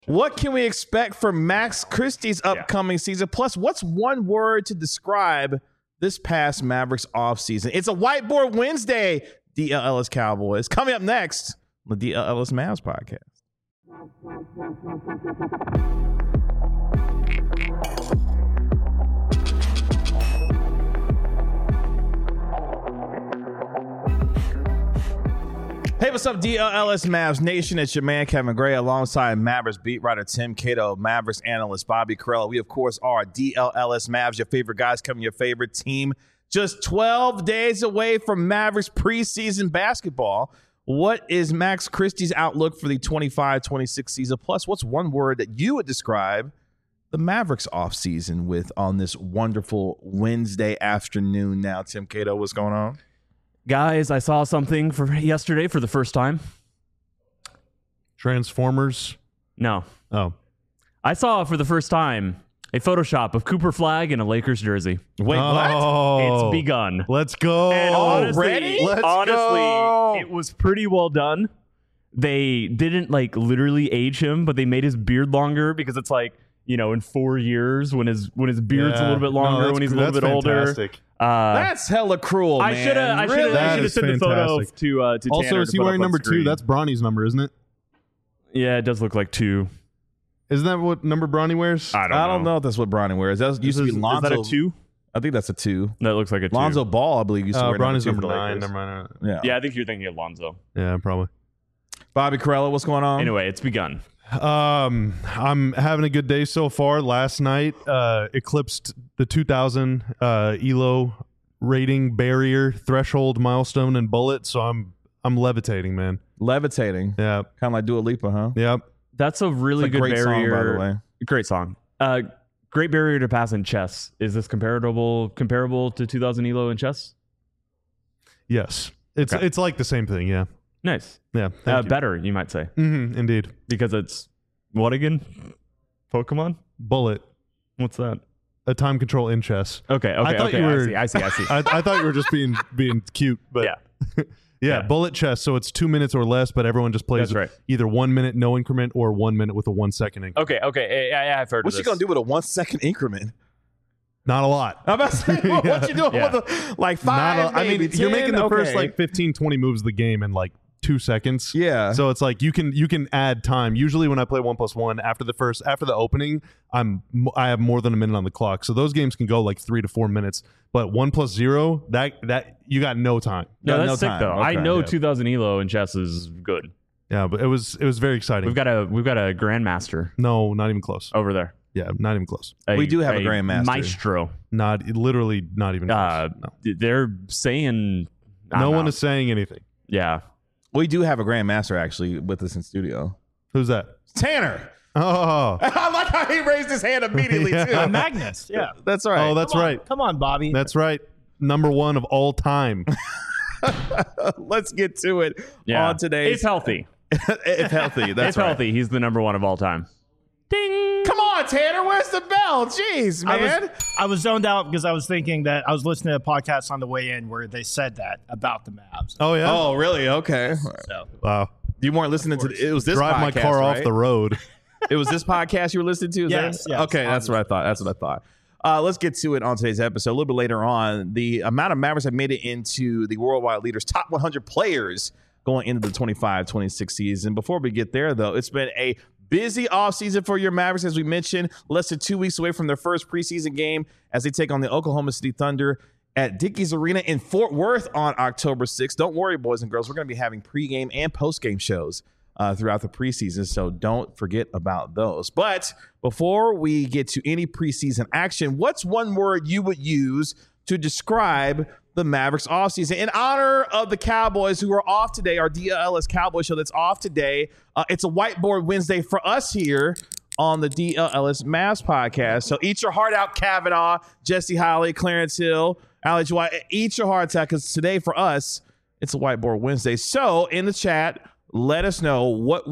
What can we expect from Max Christie's upcoming season? Plus, what's one word to describe this past Mavericks offseason? It's a Whiteboard Wednesday, DLLS Cowboys. Coming up next on the DLLS Mavs podcast. Hey, what's up, DLLS Mavs Nation? It's your man, Kevin Gray, alongside Mavericks beat writer Tim Cato, Mavericks analyst Bobby Carella. We, of course, are DLLS Mavs, your favorite guys covering your favorite team. Just 12 days away from Mavericks preseason basketball. What is Max Christie's outlook for the 25-26 season? Plus, what's one word that you would describe the Mavericks offseason with on this wonderful Wednesday afternoon? Now, Tim Cato, what's going on? Guys, I saw something for yesterday for the first time. Transformers? No. Oh. I saw for the first time a Photoshop of Cooper Flag in a Lakers jersey. Wait, what? It's begun. Let's go. And honestly, go. it was pretty well done. They didn't literally age him, but they made his beard longer because it's in 4 years when his beard's a little bit longer, when he's a little bit older. That's hella cruel, man. I should have sent the photo to also, Tanner is he wearing number 2? That's Bronny's number, isn't it? Yeah, it does look like 2. Isn't that what number Bronny wears? I don't know if that's what Bronny wears. That used to be Lonzo. Is that a 2? I think that's a 2. That looks like a 2. Lonzo Ball, I believe, used to wear Bronny's number 2 number for the 9. Lakers. Never mind. Yeah, I think you're thinking of Lonzo. Yeah, probably. Bobby Carella, what's going on? Anyway, it's begun. I'm having a good day so far. Last night eclipsed the 2,000 ELO rating barrier threshold milestone and bullet, so I'm levitating, man. Levitating. Yeah. Kind of like Dua Lipa, huh? Yep. That's a really good great barrier. song, by the way. Great song. Great barrier to pass in chess. Is this comparable to 2,000 ELO in chess? Yes. It's like the same thing, yeah. Nice. Yeah. Thank you. Better, you might say. Mm-hmm, indeed. Because it's what again? Pokemon? Bullet. What's that? A time control in chess. Okay. I thought you were, I see. I thought you were just being cute, but Yeah. yeah, bullet chess. So it's 2 minutes or less, but everyone just plays That's right. either 1 minute no increment or 1 minute with a 1 second increment. Okay. Yeah, I've heard What's of she this. going to do with a 1 second increment? Not a lot. I'm about to say, what you doing with a, 5, maybe 10? You're making the first Okay. 15, 20 moves of the game in 2 seconds. Yeah. So it's you can add time. Usually when I play 1+1 after the opening, I have more than a minute on the clock. So those games can go 3 to 4 minutes. But 1+0, that you got no time. No, Got that's no sick time. though. Okay. I know Yeah. 2,000 ELO in chess is good. Yeah, but it was very exciting. We've got a grandmaster No, not even close. over there. Yeah, not even close. We do have a grandmaster. maestro. Not even close. No. They're saying No one is saying anything. Yeah. We do have a grandmaster actually with us in studio. Who's that? Tanner. Oh, I like how he raised his hand immediately, Yeah. too. Magnus, yeah. That's right. oh, that's right. Come on, Bobby. That's right. Number 1 of all time. Let's get to it Yeah. on today's. It's healthy. If healthy. That's It's right. healthy. He's the number 1 of all time. Ding. Come on, Tanner. Where's the bell? Jeez, man. I was zoned out because I was thinking that I was listening to a podcast on the way in where they said that about the Mavs. Oh yeah. Oh, really? Okay. So Wow. You weren't listening to it was this Drive podcast, my car right? off the road. It was this podcast you were listening to? Is Yes, that- yes, Okay, that's what I thought. That's what I thought. Let's get to it on today's episode. A little bit later on, the amount of Mavericks have made it into the Worldwide Leaders top 100 players going into the 25-26 season. Before we get there, though, it's been a busy offseason for your Mavericks, as we mentioned. Less than 2 weeks away from their first preseason game as they take on the Oklahoma City Thunder at Dickies Arena in Fort Worth on October 6th. Don't worry, boys and girls. We're going to be having pregame and postgame shows throughout the preseason, so don't forget about those. But before we get to any preseason action, what's one word you would use to describe the Mavericks offseason? In honor of the Cowboys who are off today, our DLLS Cowboy show that's off today, it's a Whiteboard Wednesday for us here on the DLLS Mavs podcast. So eat your heart out, Kavanaugh, Jesse Holly, Clarence Hill, Alex White. Eat your heart out, because today for us, it's a Whiteboard Wednesday. So in the chat, let us know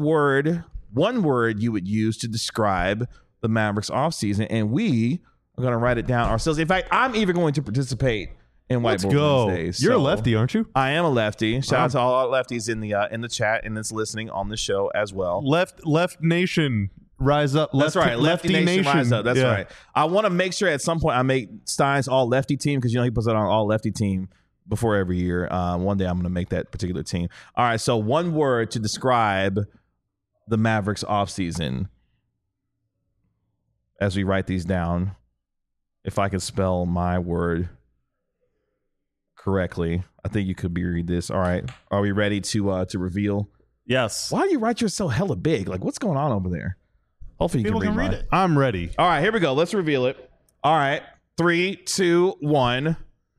one word you would use to describe the Mavericks offseason, and we are going to write it down ourselves. In fact, I'm even going to participate in Let's Whiteboard go. Wednesdays. You're a So, lefty, aren't you? I am a lefty. Shout out to all our lefties in the chat and that's listening on the show as well. Left Nation rise up. That's right. Lefty Nation rise up. That's Yeah. right. I want to make sure at some point I make Stein's all lefty team because he puts it on all lefty team before every year. One day I'm going to make that particular team. All right. So one word to describe the Mavericks offseason as we write these down. If I could spell my word correctly, I think you could read this. All right. Are we ready to reveal? Yes. Why do you write yours so hella big? Like, what's going on over there? Hopefully you People can read it. I'm ready. All right, here we go. Let's reveal it. All right. 3, 2, 1.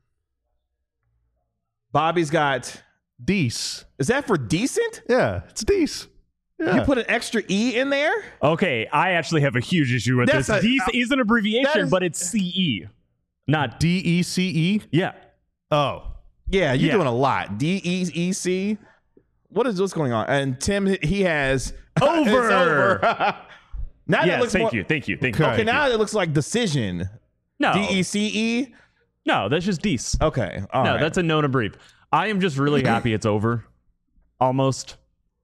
Bobby's got. Deece. Is that for decent? Yeah, it's Deece. Yeah. You put an extra E in there? Okay, I actually have a huge issue with That's this. a- Deece is an abbreviation, that is- but it's CE, not DECE. yeah. Oh, Yeah, you're Yeah. doing a lot. DEEC. What's going on? And Tim, he has Over. It's over. Now that Yes, looks thank more, you. Okay, now it looks like decision. No, DECE. no, that's just Deece. Okay, all No, right. that's a known abbrev. I am just really happy it's over. Almost.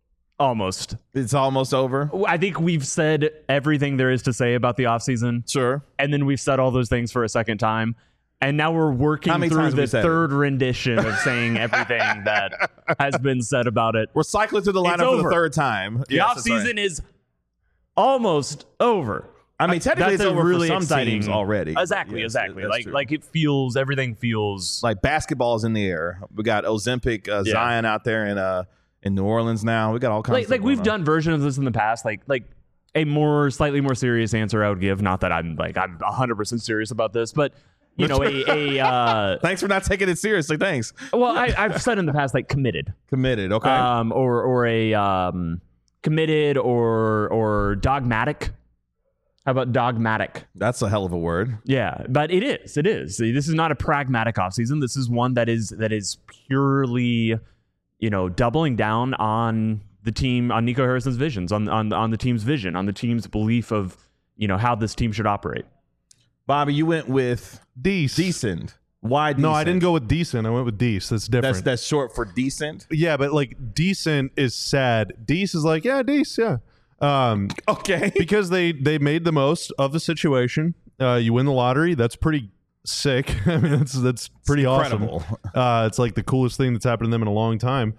It's almost over. I think we've said everything there is to say about the offseason, Sure. and then we've said all those things for a second time. And now we're working How many through times have we the said it? third rendition of saying everything that has been said about it. We're cycling through the It's lineup for the over. third time. The Yes, that's right. offseason is almost over. I mean, technically, That's it's a over really for some exciting teams already. Exactly. Yes, Like that's true. like it feels. Everything feels. Like basketball's in the air. We got Ozempic, Zion out there in New Orleans now. We got all kinds. of Like stuff we've going done versions of this in the past. Like a slightly more serious answer I would give. Not that I'm 100% serious about this, but you know on. Thanks for not taking it seriously. Thanks. well I've said in the past like committed. Committed. Okay. Or a committed or dogmatic. How about dogmatic? That's a hell of a word. Yeah, but it is. This is not a pragmatic offseason. This is one that is purely, doubling down on the team, on Nico Harrison's visions, on the team's vision, on the team's belief of, how this team should operate. Bobby, you went with Deece. decent. Why decent? No, I didn't go with decent. I went with Deece. That's different. That's short for decent. Yeah, but like decent is sad. Deece is like, yeah, Deece, yeah. Okay. Because they made the most of the situation. You win the lottery. That's pretty sick. I mean, that's pretty incredible. awesome. It's like the coolest thing that's happened to them in a long time.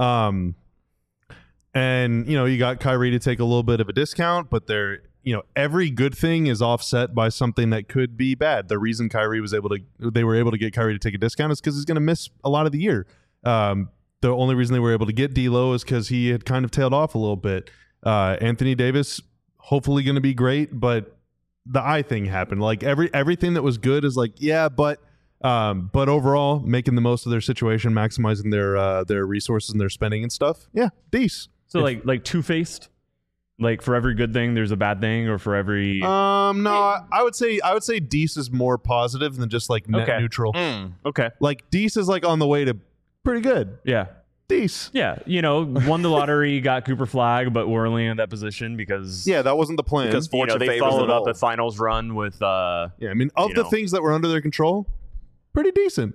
And you got Kyrie to take a little bit of a discount, but every good thing is offset by something that could be bad. The reason they were able to get Kyrie to take a discount is because he's going to miss a lot of the year. The only reason they were able to get D'Lo is because he had kind of tailed off a little bit. Anthony Davis, hopefully going to be great, but the eye thing happened. Like everything that was good is like, yeah, but overall, making the most of their situation, maximizing their resources and their spending and stuff. Yeah, Deece. So like two-faced, like for every good thing there's a bad thing, or for every No, I would say Deece is more positive than just like net Okay. neutral. okay, Like Deece is like on the way to pretty good. yeah. Deece. Yeah, won the lottery, got Cooper Flag, but we're only in that position because Yeah, that wasn't the plan. Because fortune they favors followed the up bold. a finals run with yeah, I mean, of the things that were under their control, pretty decent.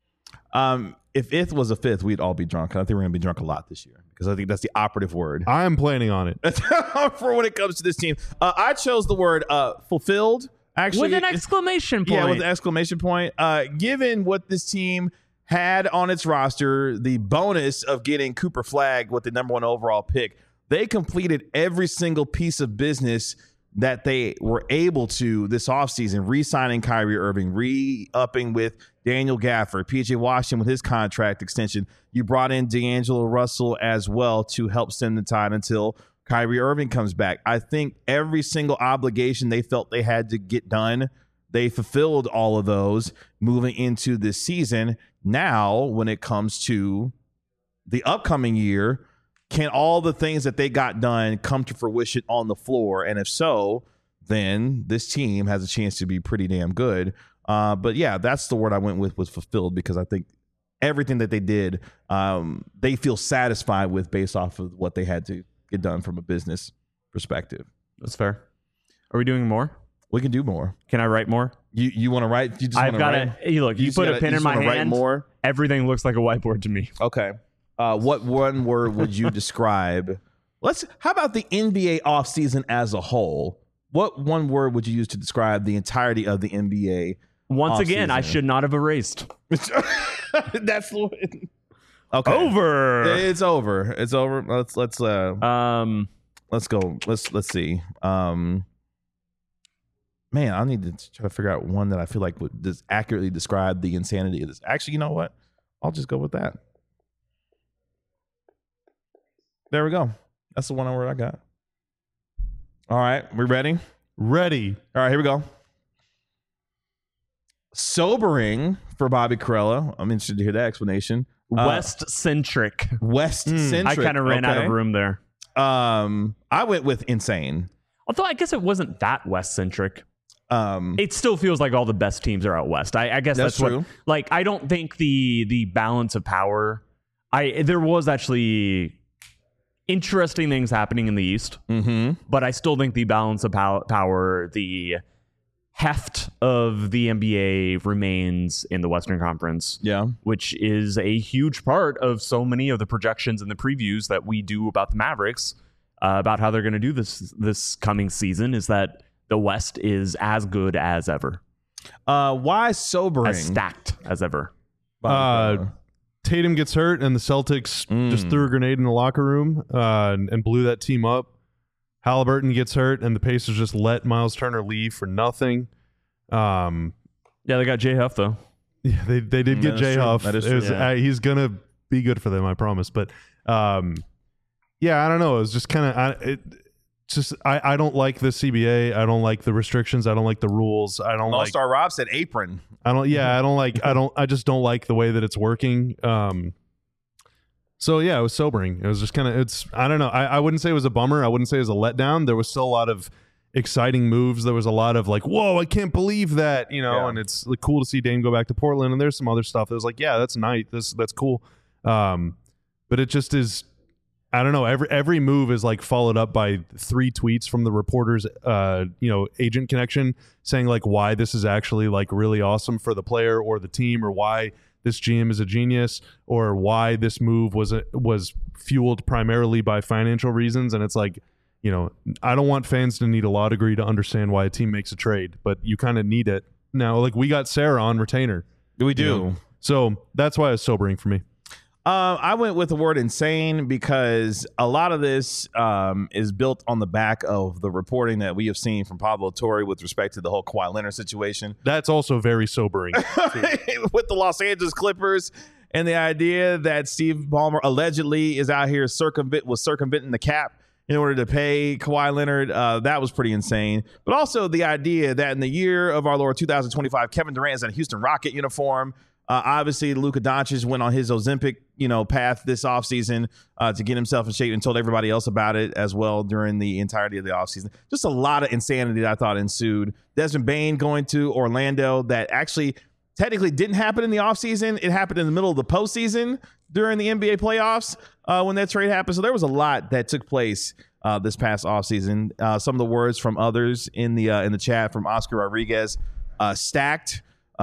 If it was a fifth, we'd all be drunk. I think we're going to be drunk a lot this year because I think that's the operative word I'm planning on it. for when it comes to this team. I chose the word fulfilled. Actually, with an exclamation point. Yeah, with an exclamation point. Given what this team had on its roster, the bonus of getting Cooper Flag with the number 1 overall pick, they completed every single piece of business that they were able to this offseason, re-signing Kyrie Irving, re-upping with Daniel Gafford, PJ Washington with his contract extension. You brought in D'Angelo Russell as well to help stem the tide until Kyrie Irving comes back. I think every single obligation they felt they had to get done, they fulfilled all of those moving into this season. Now, when it comes to the upcoming year, can all the things that they got done come to fruition on the floor? And if so, then this team has a chance to be pretty damn good. But yeah, that's the word I went with, was fulfilled, because I think everything that they did, they feel satisfied with based off of what they had to get done from a business perspective. That's fair. Are we doing more? We can do more. Can I write more? You want to write? You just I've want to got write? it. Look, you just put gotta- a pen you in just my wanna write hand. more? Everything looks like a whiteboard to me. Okay. What one word would you describe? How about the NBA offseason as a whole? What one word would you use to describe the entirety of the NBA? Once again, I offseason? should not have erased. That's okay. Over. It's over. It's over. Let's go. Let's see. Man, I need to try to figure out one that I feel like would just accurately describe the insanity of this. Actually, you know what? I'll just go with that. There we go. That's the one word I got. All right, we ready? Ready. All right, here we go. Sobering for Bobby Karalla. I'm interested to hear that explanation. West-centric. West-centric. I kind of ran out of room there. I went with insane. Although I guess it wasn't that West-centric. It still feels like all the best teams are out West. I guess that's true. what. Like, I don't think the balance of power. There was actually interesting things happening in the East, but I still think the balance of power, the heft of the NBA remains in the Western Conference. Yeah. Which is a huge part of so many of the projections and the previews that we do about the Mavericks, about how they're going to do this coming season, is that the West is as good as ever. Why sobering? As stacked as ever. Tatum gets hurt, and the Celtics just threw a grenade in the locker room and blew that team up. Halliburton gets hurt, and the Pacers just let Miles Turner leave for nothing. Yeah, they got J Huff though. Yeah, they did get J Huff. That is true. He's gonna be good for them, I promise. But yeah, I don't know. It was just kind of I don't like the CBA. I don't like the restrictions. I don't like the rules. I don't like All-Star Rob said apron. I just don't like the way that it's working. So yeah, it was sobering. It was just kind of, I don't know. I wouldn't say it was a bummer. I wouldn't say it was a letdown. There was still a lot of exciting moves. There was a lot of like, whoa, I can't believe that, and it's like cool to see Dame go back to Portland. And there's some other stuff that was like, yeah, that's nice. That's cool. But it just is, I don't know. Every move is like followed up by 3 tweets from the reporter's, agent connection saying like why this is actually like really awesome for the player or the team, or why this GM is a genius, or why this move was fueled primarily by financial reasons. And it's like, I don't want fans to need a law degree to understand why a team makes a trade, but you kind of need it now. Like we got Sarah on retainer. We do. So that's why it's sobering for me. I went with the word insane because a lot of this is built on the back of the reporting that we have seen from Pablo Torre with respect to the whole Kawhi Leonard situation. That's also very sobering. With the Los Angeles Clippers and the idea that Steve Ballmer allegedly is out here circumventing the cap in order to pay Kawhi Leonard. That was pretty insane. But also the idea that in the year of our Lord 2025, Kevin Durant is in a Houston Rocket uniform. Obviously, Luka Doncic went on his Ozempic, path this offseason to get himself in shape and told everybody else about it as well during the entirety of the offseason. Just a lot of insanity that I thought ensued. Desmond Bane going to Orlando, that actually technically didn't happen in the offseason. It happened in the middle of the postseason during the NBA playoffs when that trade happened. So there was a lot that took place this past offseason. Some of the words from others in the chat from Oscar Rodriguez, stacked.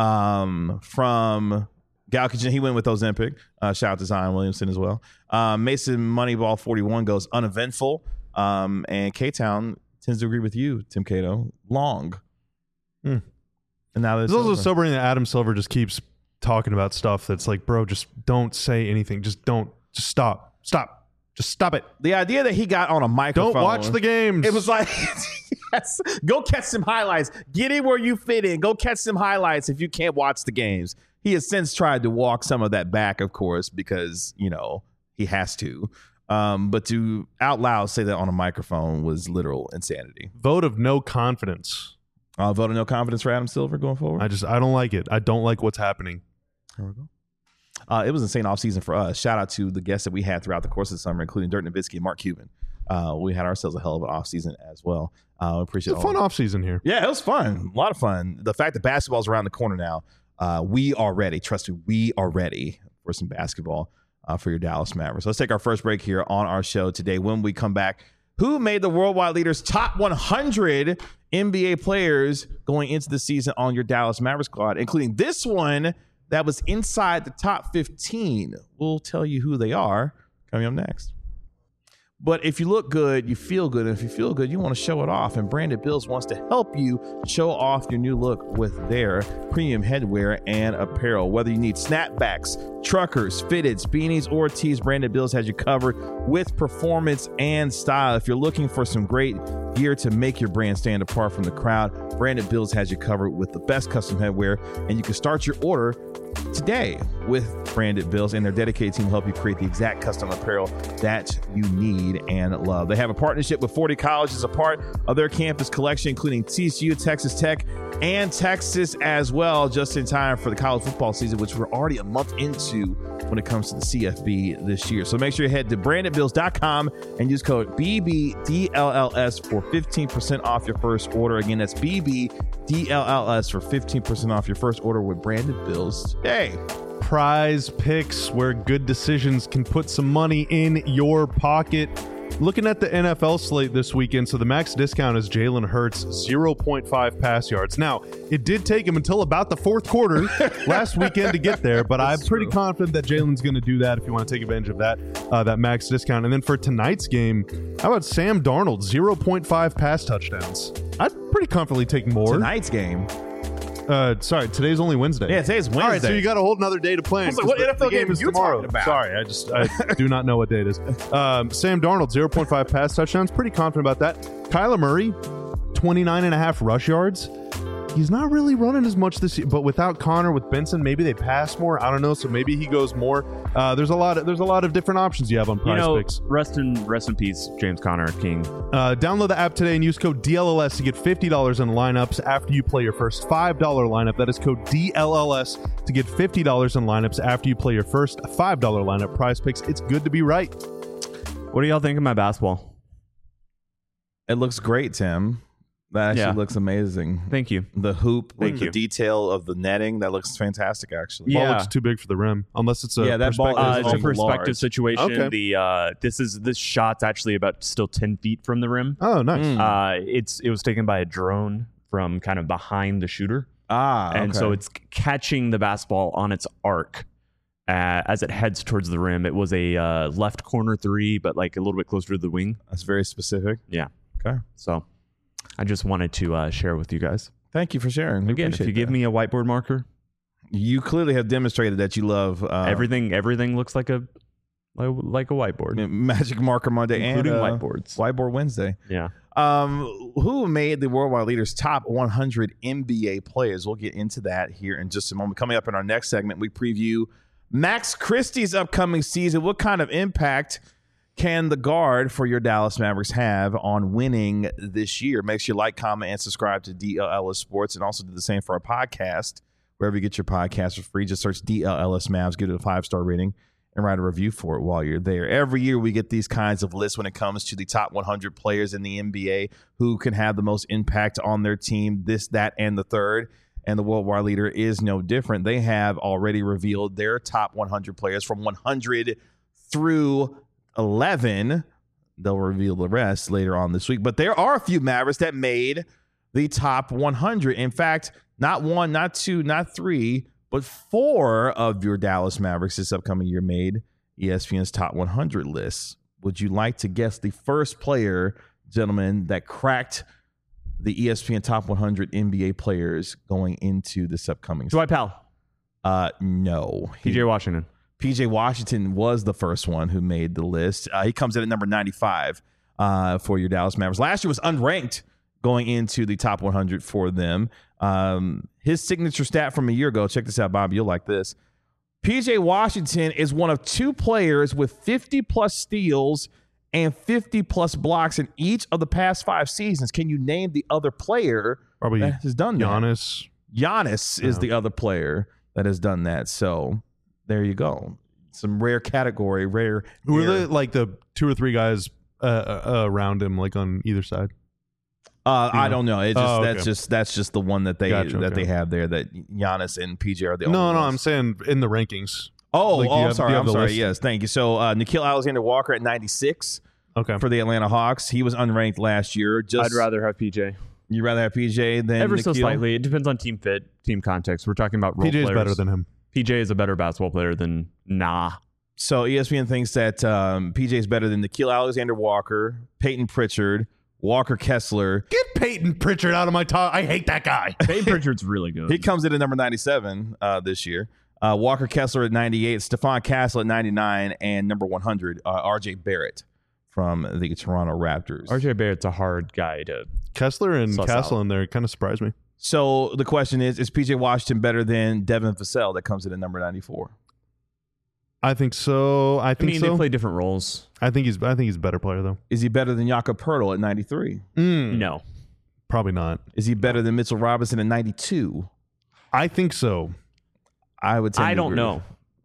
From Gal Kitchen, he went with Ozempic. Shout out to Zion Williamson as well. Mason Moneyball 41 goes uneventful. And K-Town tends to agree with you, Tim Cato. Long. And now it's also sobering that Adam Silver just keeps talking about stuff that's like, bro, just don't say anything. Just stop. Just stop it. The idea that he got on a microphone. Don't watch the games. It was like, yes, go catch some highlights. Get in where you fit in. Go catch some highlights if you can't watch the games. He has since tried to walk some of that back, of course, because, he has to. But to out loud say that on a microphone was literal insanity. Vote of no confidence. Vote of no confidence for Adam Silver going forward? I don't like it. I don't like what's happening. There we go. It was an insane offseason for us. Shout out to the guests that we had throughout the course of the summer, including Dirk Nowitzki and Mark Cuban. We had ourselves a hell of an offseason as well. Appreciate it. It's a fun offseason here. Yeah, it was fun. A lot of fun. The fact that basketball's around the corner now, we are ready. Trust me, we are ready for some basketball for your Dallas Mavericks. Let's take our first break here on our show today. When we come back, who made the Worldwide Leaders top 100 NBA players going into the season on your Dallas Mavericks squad, including this one that was inside the top 15. We'll tell you who they are coming up next. But if you look good, you feel good. And if you feel good, you want to show it off. And Branded Bills wants to help you show off your new look with their premium headwear and apparel. Whether you need snapbacks, truckers, fitteds, beanies, or tees, Branded Bills has you covered with performance and style. If you're looking for some great gear to make your brand stand apart from the crowd, Branded Bills has you covered with the best custom headwear. And you can start your order today with Branded Bills, and their dedicated team will help you create the exact custom apparel that you need and love. They have a partnership with 40 colleges as a part of their campus collection, including TCU, Texas Tech, and Texas as well, just in time for the college football season, which we're already a month into when it comes to the CFB this year. So make sure you head to brandedbills.com and use code BBDLLS for 15% off your first order. Again, that's BBDLLS for 15% off your first order with Branded Bills today. Prize Picks, where good decisions can put some money in your pocket. Looking at the NFL slate this weekend, so the max discount is Jalen Hurts, 0.5 pass yards. Now, it did take him until about the fourth quarter last weekend to get there, but I'm pretty confident that Jalen's going to do that if you want to take advantage of that max discount. And then for tonight's game, how about Sam Darnold, 0.5 pass touchdowns? I'd pretty comfortably take more. Tonight's game. Sorry, today's only Wednesday. Yeah, today's Wednesday. All right, so you got a whole another day to plan. I was like, what NFL game is are you tomorrow? talking about? Sorry, I do not know what day it is. Sam Darnold, 0.5 pass touchdowns. Pretty confident about that. Kyler Murray, 29.5 rush yards. He's not really running as much this year, but without Connor, with Benson, maybe they pass more. I don't know, so maybe he goes more. There's a lot of different options you have on Prize Picks. Rest in peace, James Conner, King. Download the app today and use code DLLS to get $50 in lineups after you play your first $5 lineup. That is code DLLS to get $50 in lineups after you play your first $5 lineup. Prize Picks, it's good to be right. What do y'all think of my basketball? It looks great, Tim. That actually looks amazing. Thank you. The hoop with Thank the you. detail of the netting, that looks fantastic, actually. Ball looks too big for the rim, unless it's a that ball perspective. is It's a perspective large. situation. Okay. This shot's actually about still 10 feet from the rim. Oh, nice. It was taken by a drone from kind of behind the shooter. And So it's catching the basketball on its arc as it heads towards the rim. It was a left corner three, but like a little bit closer to the wing. that's very specific. Yeah. Okay. So I just wanted to share with you guys. Thank you for sharing. We Again, if you appreciate give that. me a whiteboard marker, You clearly have demonstrated that you love everything looks like a whiteboard, Magic Marker Monday including and whiteboards. Whiteboard Wednesday. Yeah. Who made the Worldwide Leaders top 100 NBA players? We'll get into that here in just a moment. Coming up in our next segment, we preview Max Christie's upcoming season. What kind of impact can the guard for your Dallas Mavericks have on winning this year? Make sure you like, comment, and subscribe to DLLS Sports, and also do the same for our podcast. Wherever you get your podcast for free, just search DLLS Mavs, give it a 5-star rating, and write a review for it while you're there. Every year we get these kinds of lists when it comes to the top 100 players in the NBA who can have the most impact on their team, this, that, and the third. And the Worldwide Leader is no different. They have already revealed their top 100 players from 100 through 11. They'll reveal the rest later on this week. But there are a few Mavericks that made the top 100. In fact, not one, not two, not three, but 4 of your Dallas Mavericks this upcoming year made ESPN's top 100 list. Would you like to guess the first player, gentlemen, that cracked the ESPN top 100 NBA players going into this upcoming Dwight Powell. No. PJ Washington. PJ Washington was the first one who made the list. He comes in at number 95 for your Dallas Mavericks. Last year was unranked going into the top 100 for them. His signature stat from a year ago, check this out, Bob, you'll like this. PJ Washington is one of 2 players with 50-plus steals and 50-plus blocks in each of the past 5 seasons. Can you name the other player Probably that has done that? Giannis. Giannis is the other player that has done that. So there you go. Some rare category, rare. Who are the 2 or 3 guys around him, like on either side? I don't know. It's just okay. that's just the one that they Gotcha, they have there. That Giannis and PJ are the only No, ones. I'm saying in the rankings. Oh, Like, do you I'm have- sorry. do you I'm have the sorry. list? Yes, thank you. So Nikhil Alexander-Walker at 96 Okay. for the Atlanta Hawks. He was unranked last year. I'd rather have PJ. You'd rather have PJ than Ever Nikhil? so slightly. It depends on team fit, team context. We're talking about role PJ's players. better than him. PJ is a better basketball player than So ESPN thinks that PJ is better than Nickeil Alexander-Walker, Peyton Pritchard, Walker Kessler. Get Peyton Pritchard out of my top. I hate that guy. Peyton Pritchard's really good. He comes in at number 97 this year. Walker Kessler at 98, Stephon Castle at 99, and number 100, RJ Barrett from the Toronto Raptors. RJ Barrett's a hard guy to. Kessler and Suss Castle out. in there kind of surprised me. So the question is PJ Washington better than Devin Vassell that comes in at number 94? I think so. I They so. play different roles. I think he's a better player though. Is he better than Jakob Poeltl at 93? No. Probably not. Is he better than Mitchell Robinson at 92? I think so. I would say I don't know.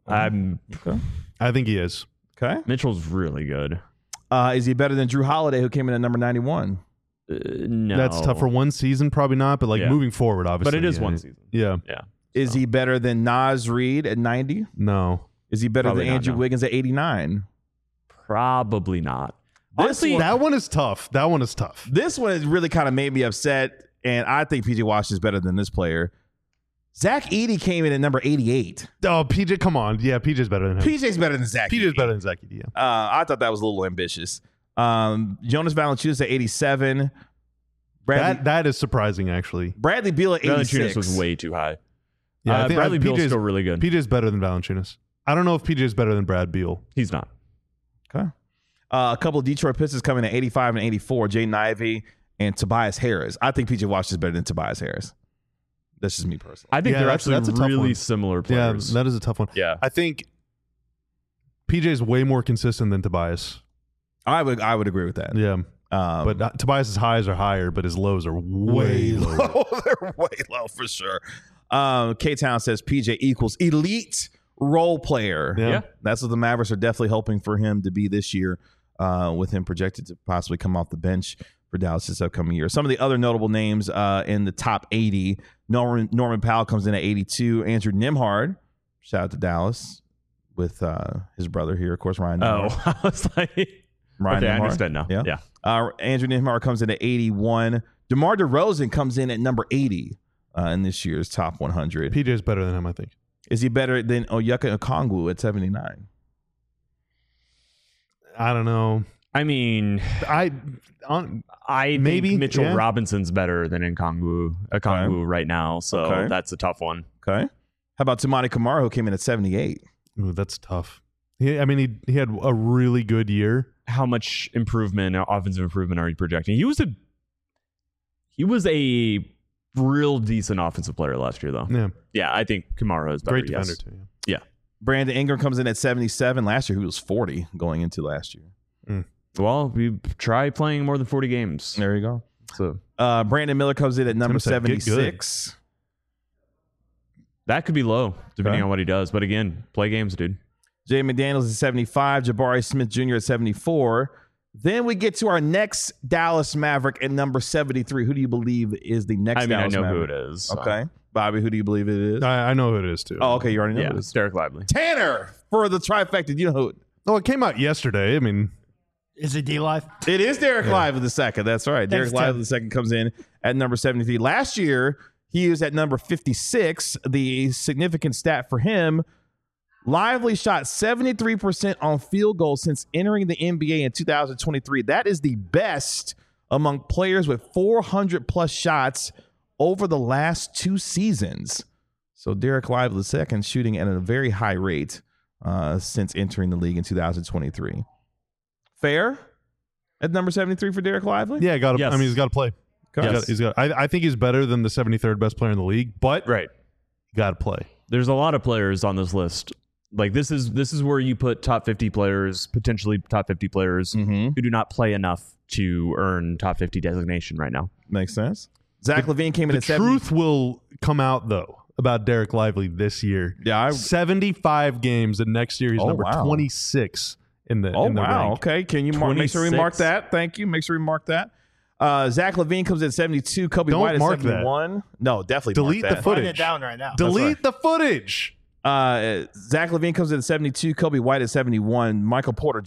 I think he is. Okay. Mitchell's really good. Is he better than Drew Holiday, who came in at number 91? No. That's tough for one season, probably not, but like Yeah. moving forward, obviously. But it is yeah. one season. Yeah. Yeah. Is he better than Naz Reid at 90? No. Is he better Probably than not, Andrew no. Wiggins at 89? Probably not. Honestly, That one is tough. this one has really kind of made me upset, and I think PJ Washington is better than this player. Zach Edey came in at number 88. Oh, PJ, come on. Yeah, PJ's better than him. PJ's better than Zach PJ's Edey. better than Zach Edey, yeah. I thought that was a little ambitious. Jonas Valanciunas at 87. That is surprising, actually. Bradley Beal at 86. Valanciunas was way too high. Yeah, I think Bradley Beal's PJ's still really good. PJ's better than Valanciunas. I don't know if PJ's better than Brad Beal. He's not. Okay. A couple of Detroit Pistons coming at 85 and 84. Jaden Ivey and Tobias Harris. I think PJ Washington is better than Tobias Harris. That's just me personally. I think Yeah, they're that's actually a tough really one. similar players. Yeah, that is a tough one. Yeah. I think PJ's way more consistent than Tobias. I would agree with that. Yeah. But Tobias's highs are higher, but his lows are way lower. They're way low for sure. K-Town says PJ equals elite role player. Yeah. That's what the Mavericks are definitely hoping for him to be this year, with him projected to possibly come off the bench for Dallas this upcoming year. Some of the other notable names in the top 80, Norman Powell comes in at 82. Andrew Nembhard, shout out to Dallas, with his brother here, of course, Ryan Nembhard. Oh, I was like, Ryan okay, I Nembhard. understand now. Yeah. Andrew Nembhard comes in at 81. DeMar DeRozan comes in at number 80 in this year's top 100. PJ's better than him, I think. Is he better than Onyeka Okongwu at 79? I don't know. I mean, I maybe, think Mitchell yeah. Robinson's better than Okongwu right now, so Okay. that's a tough one. Okay. How about Tamani Kamara, who came in at 78? Ooh, that's tough. He had a really good year. How much offensive improvement are you projecting? He was a real decent offensive player last year, though. Yeah. Yeah, I think Kamara is better. Great defender, yes. too. Yeah. Yeah. Brandon Ingram comes in at 77. Last year, he was 40 going into last year. Well, we try playing more than 40 games. There you go. So Brandon Miller comes in at number Tim said, "Get good." 76. that could be low, depending on what he does. But again, play games, dude. Jay McDaniels at 75. Jabari Smith Jr. at 74. Then we get to our next Dallas Maverick at number 73. Who do you believe is the next Dallas I know Maverick? who it is. so. Okay. Bobby, who do you believe it is? I know who it is, too. Oh, okay. You already know Yeah, who it it's is. Derek Lively. Tanner for the trifecta. You know who? Oh, it came out yesterday. I mean, Is it D-Live? It is Derek Lively the second. That's right. Thanks, Derek Lively Tim. the second comes in at number 73. Last year, he was at number 56. The significant stat for him, Lively shot 73% on field goals since entering the NBA in 2023. That is the best among players with 400-plus shots over the last 2 seasons. So Derek Lively the second shooting at a very high rate since entering the league in 2023. Fair at number 73 for Derek Lively? yeah, Yes. he's got to play. Okay. He's got. I think he's better than the 73rd best player in the league, but Right. got to play. There's a lot of players on this list. Like this is where you put top 50 players, potentially top 50 players Mm-hmm. who do not play enough to earn top 50 designation right now. Makes sense. Zach Levine came in The at 70. truth will come out, though, about Derek Lively this year. Yeah. 75 games, and next year he's Oh, number wow. 26 in the Oh, in the wow. rank. Okay. Can you make sure we 26. mark that? Thank you. Make sure we mark that. Zach Levine comes in at 72. Kobe Don't White at mark that. 71. No, definitely Delete mark the that. footage. Write it down right now. Delete the footage. Zach Levine comes in at 72. Kobe White at 71. Michael Porter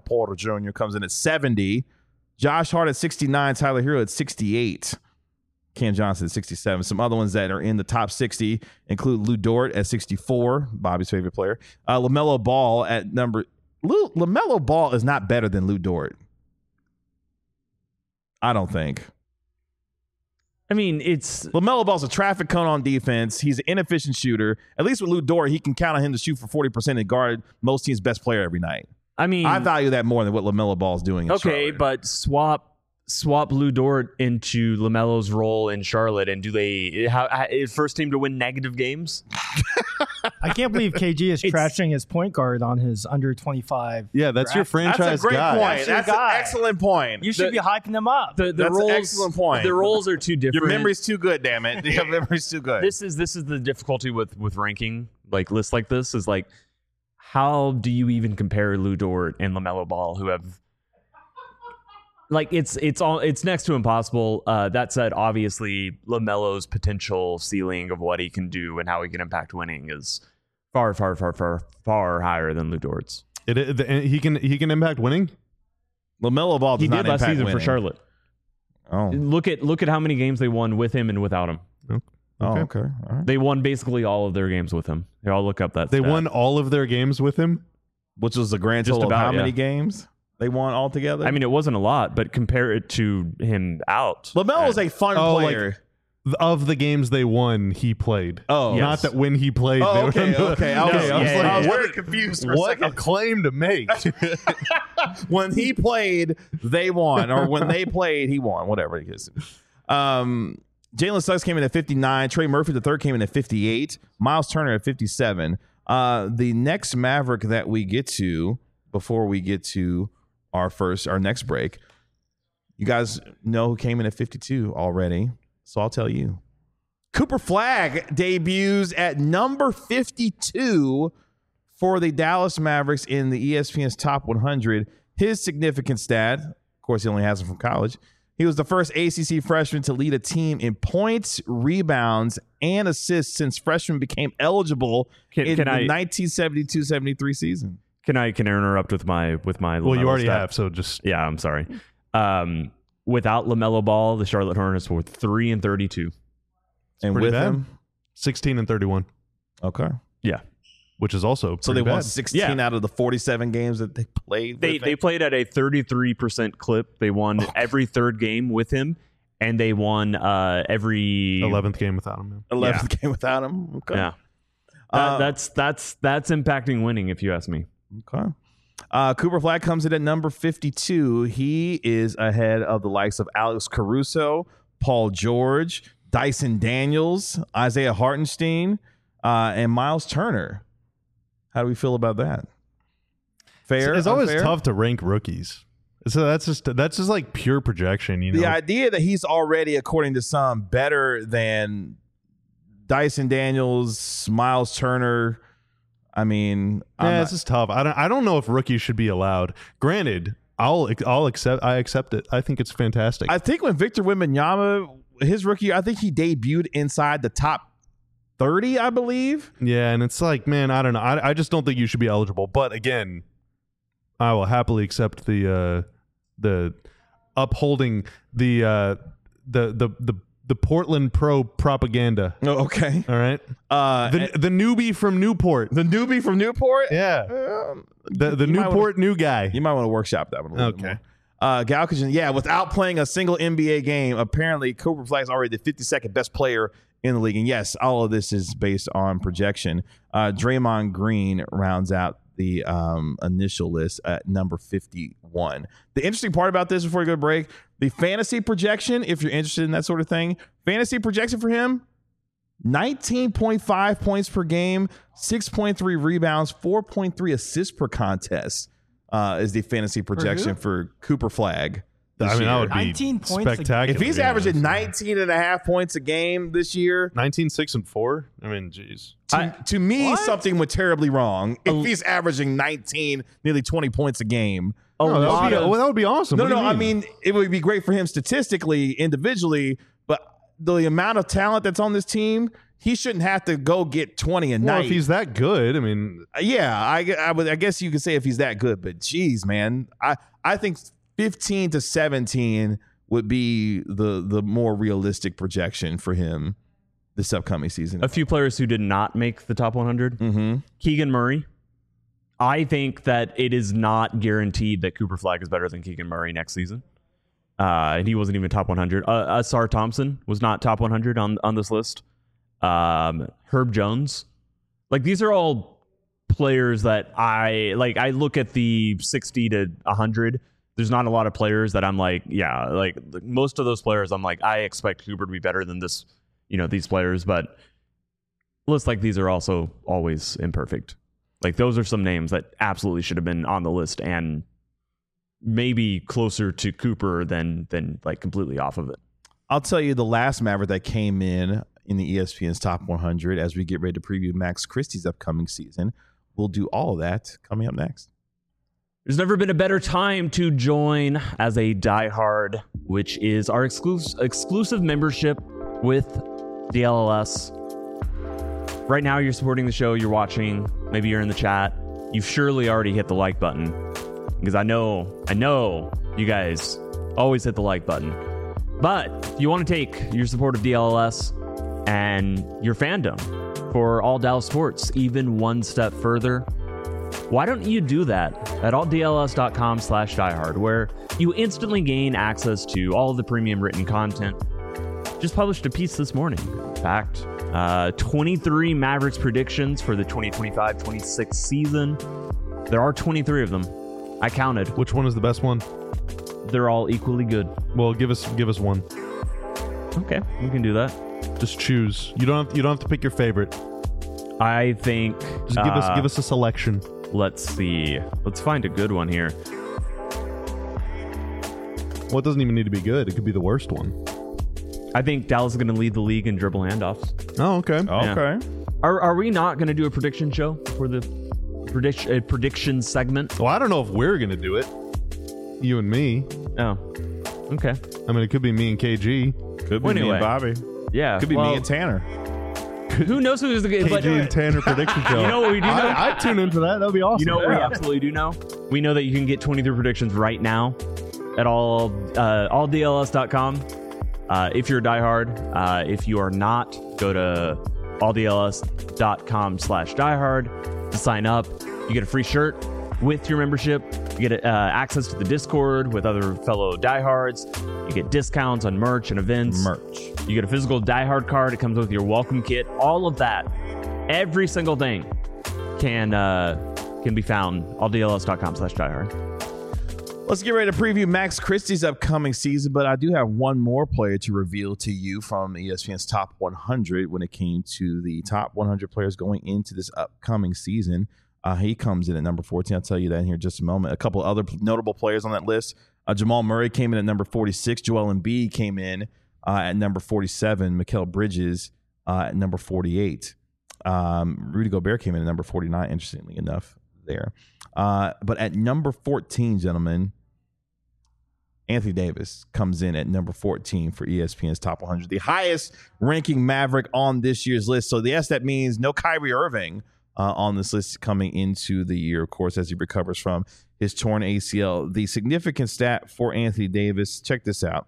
Jr. comes in at 70. Josh Hart at 69. Tyler Hero at 68. Cam Johnson at 67. Some other ones that are in the top 60 include Lou Dort at 64, Bobby's favorite player. LaMelo Ball at number. LaMelo Ball is not better than Lou Dort. I don't think. I mean, it's LaMelo Ball's a traffic cone on defense. He's an inefficient shooter. At least with Lou Dort, he can count on him to shoot for 40% and guard most teams' best player every night. I mean, I value that more than what LaMelo Ball's doing in okay, Charlotte. but swap Lou Dort into LaMelo's role in Charlotte, and do they first team to win negative games? I can't believe KG is trashing his point guard on his under 25. Yeah, that's your franchise That's a great guy. point. That's an excellent point. You should be hyping him up. The That's roles, an excellent point. The roles are too different. Your memory's too good, damn it. Your memory's too good. This is the difficulty with ranking like lists like this is like, how do you even compare Lou Dort and LaMelo Ball, who have like it's next to impossible. That said, obviously LaMelo's potential ceiling of what he can do and how he can impact winning is far higher than Lou Dort's. He can impact winning. LaMelo Ball does He not did last impact season winning. for Charlotte. Oh, Look at how many games they won with him and without him. okay. All right. They won basically all of their games with him. Here, I'll look up that. They stat. won all of their games with him. Which was the grand Just total of about, how many yeah. games they won altogether? I mean, it wasn't a lot, but compare it to him out. LaMelo's a fun player. Of the games they won, he played. Oh, yes. Not that when he played. Oh, they were okay. in the- Okay. I was yeah, like, yeah. very confused for a what a second. claim to make. When he played, they won, or when they played, he won. Whatever it is. Jalen Suggs came in at 59. Trey Murphy the third came in at 58. Miles Turner at 57. The next Maverick that we get to before we get to our next break, you guys know who came in at 52 already, so I'll tell you. Cooper Flagg debuts at number 52 for the Dallas Mavericks in the ESPN's Top 100. His significant stat, of course, he only has it from college. He was the first ACC freshman to lead a team in points, rebounds, and assists since freshmen became eligible in the 1972-73 season. Can I interrupt with my Well, LaMelo you already stat? have, so just Yeah, I'm sorry. Without LaMelo Ball, the Charlotte Hornets were 3-32. And pretty with bad. him, 16-31, okay. Yeah, which is also So pretty they won bad. 16 out of the 47 games that they played. they played at a 33% clip. They won every third game with him, and they won every 11th game without him. 11th game without him. Okay. Yeah, that's impacting winning, if you ask me. Okay. Cooper Flagg comes in at number 52. He is ahead of the likes of Alex Caruso, Paul George, Dyson Daniels, Isaiah Hartenstein, and Miles Turner. How do we feel about that? Fair? It's always unfair? tough to rank rookies. So that's just like pure projection, you know. The idea that he's already, according to some, better than Dyson Daniels, Miles Turner. I mean, It's just tough. I don't know if rookies should be allowed. Granted, I accept it. I think it's fantastic. I think when Victor Wembanyama, his rookie, I think he debuted inside the top 30, I believe. Yeah, and it's like, man, I don't know. I just don't think you should be eligible. But again, I will happily accept the upholding the Portland Pro propaganda. Oh, okay. All right. The newbie from Newport. The newbie from Newport? Yeah. The you might Newport new guy. You might want to workshop that one a little bit Okay. more. Galkison, without playing a single NBA game, apparently Cooper Flagg is already the 52nd best player in the league. And yes, all of this is based on projection. Draymond Green rounds out the initial list at number 51. The interesting part about this, before we go to break, the fantasy projection, if you're interested in that sort of thing, fantasy projection for him, 19.5 points per game, 6.3 rebounds, 4.3 assists per contest is the fantasy projection for Cooper Flagg. I mean, that would be 19 points a- spectacular. If he's yeah. averaging 19.5 points a game this year, 19, 6, and 4, I mean, geez. to me, What? something went terribly wrong. If he's averaging 19, nearly 20 points a game. That would be awesome. No, What do you I mean, it would be great for him statistically, individually, but the amount of talent that's on this team, he shouldn't have to go get 20 a well, night. if he's that good, I mean, Yeah, I guess you could say if he's that good, but geez, man, I think 15 to 17 would be the more realistic projection for him this upcoming season? A few players who did not make the top 100. Mm-hmm. Keegan Murray. I think that it is not guaranteed that Cooper Flagg is better than Keegan Murray next season. And he wasn't even top 100. Asar Thompson was not top 100 on this list. Herb Jones. Like, these are all players that I look at the 60 to 100. There's not a lot of players that I'm like, yeah, like most of those players, I'm like, I expect Cooper to be better than this, these players. But lists like these are also always imperfect. Like, those are some names that absolutely should have been on the list and maybe closer to Cooper than like completely off of it. I'll tell you the last Maverick that came in the ESPN's top 100 as we get ready to preview Max Christie's upcoming season. We'll do all of that coming up next. There's never been a better time to join as a diehard, which is our exclusive membership with DLLS. Right now, you're supporting the show, you're watching, maybe you're in the chat. You've surely already hit the like button, because I know you guys always hit the like button. But if you want to take your support of DLLS and your fandom for All Dallas Sports even one step further, why don't you do that at alldls.com/diehard, where you instantly gain access to all of the premium written content. Just published a piece this morning. In fact, 23 Mavericks predictions for the 2025-26 season. There are 23 of them. I counted. Which one is the best one? They're all equally good. Well, give us one. Okay, we can do that. Just choose. You don't have to pick your favorite. I think just give us a selection. Let's see. Let's find a good one here. Well, it doesn't even need to be good. It could be the worst one. I think Dallas is going to lead the league in dribble handoffs. Oh, okay. Yeah. Okay. Are we not going to do a prediction show for the prediction segment? Well, I don't know if we're going to do it. You and me. Oh, okay. I mean, it could be me and KG. Could be Well, me anyway. and Bobby. Yeah. Could be me and Tanner. Who knows who's the KG and Tanner prediction show. You know what we do know? I'd tune into that. That'd be awesome. You know what we absolutely do know? We know that you can get 23 predictions right now at alldls.com. If you're a diehard. If you are not, go to alldls.com/diehard to sign up. You get a free shirt with your membership. You get access to the Discord with other fellow diehards. You get discounts on merch and events. You get a physical diehard card. It comes with your welcome kit. All of that, every single thing can be found alldls.com/diehard. Let's get ready to preview Max Christie's upcoming season, but I do have one more player to reveal to you from ESPN's top 100 when it came to the top 100 players going into this upcoming season. He comes in at number 14. I'll tell you that in here in just a moment. A couple of other notable players on that list. Jamal Murray came in at number 46. Joel Embiid came in at number 47. Mikal Bridges at number 48. Rudy Gobert came in at number 49, interestingly enough, there. But at number 14, gentlemen, Anthony Davis comes in at number 14 for ESPN's top 100, the highest ranking Maverick on this year's list. So, yes, that means no Kyrie Irving on this list coming into the year, of course, as he recovers from his torn ACL. The significant stat for Anthony Davis, check this out.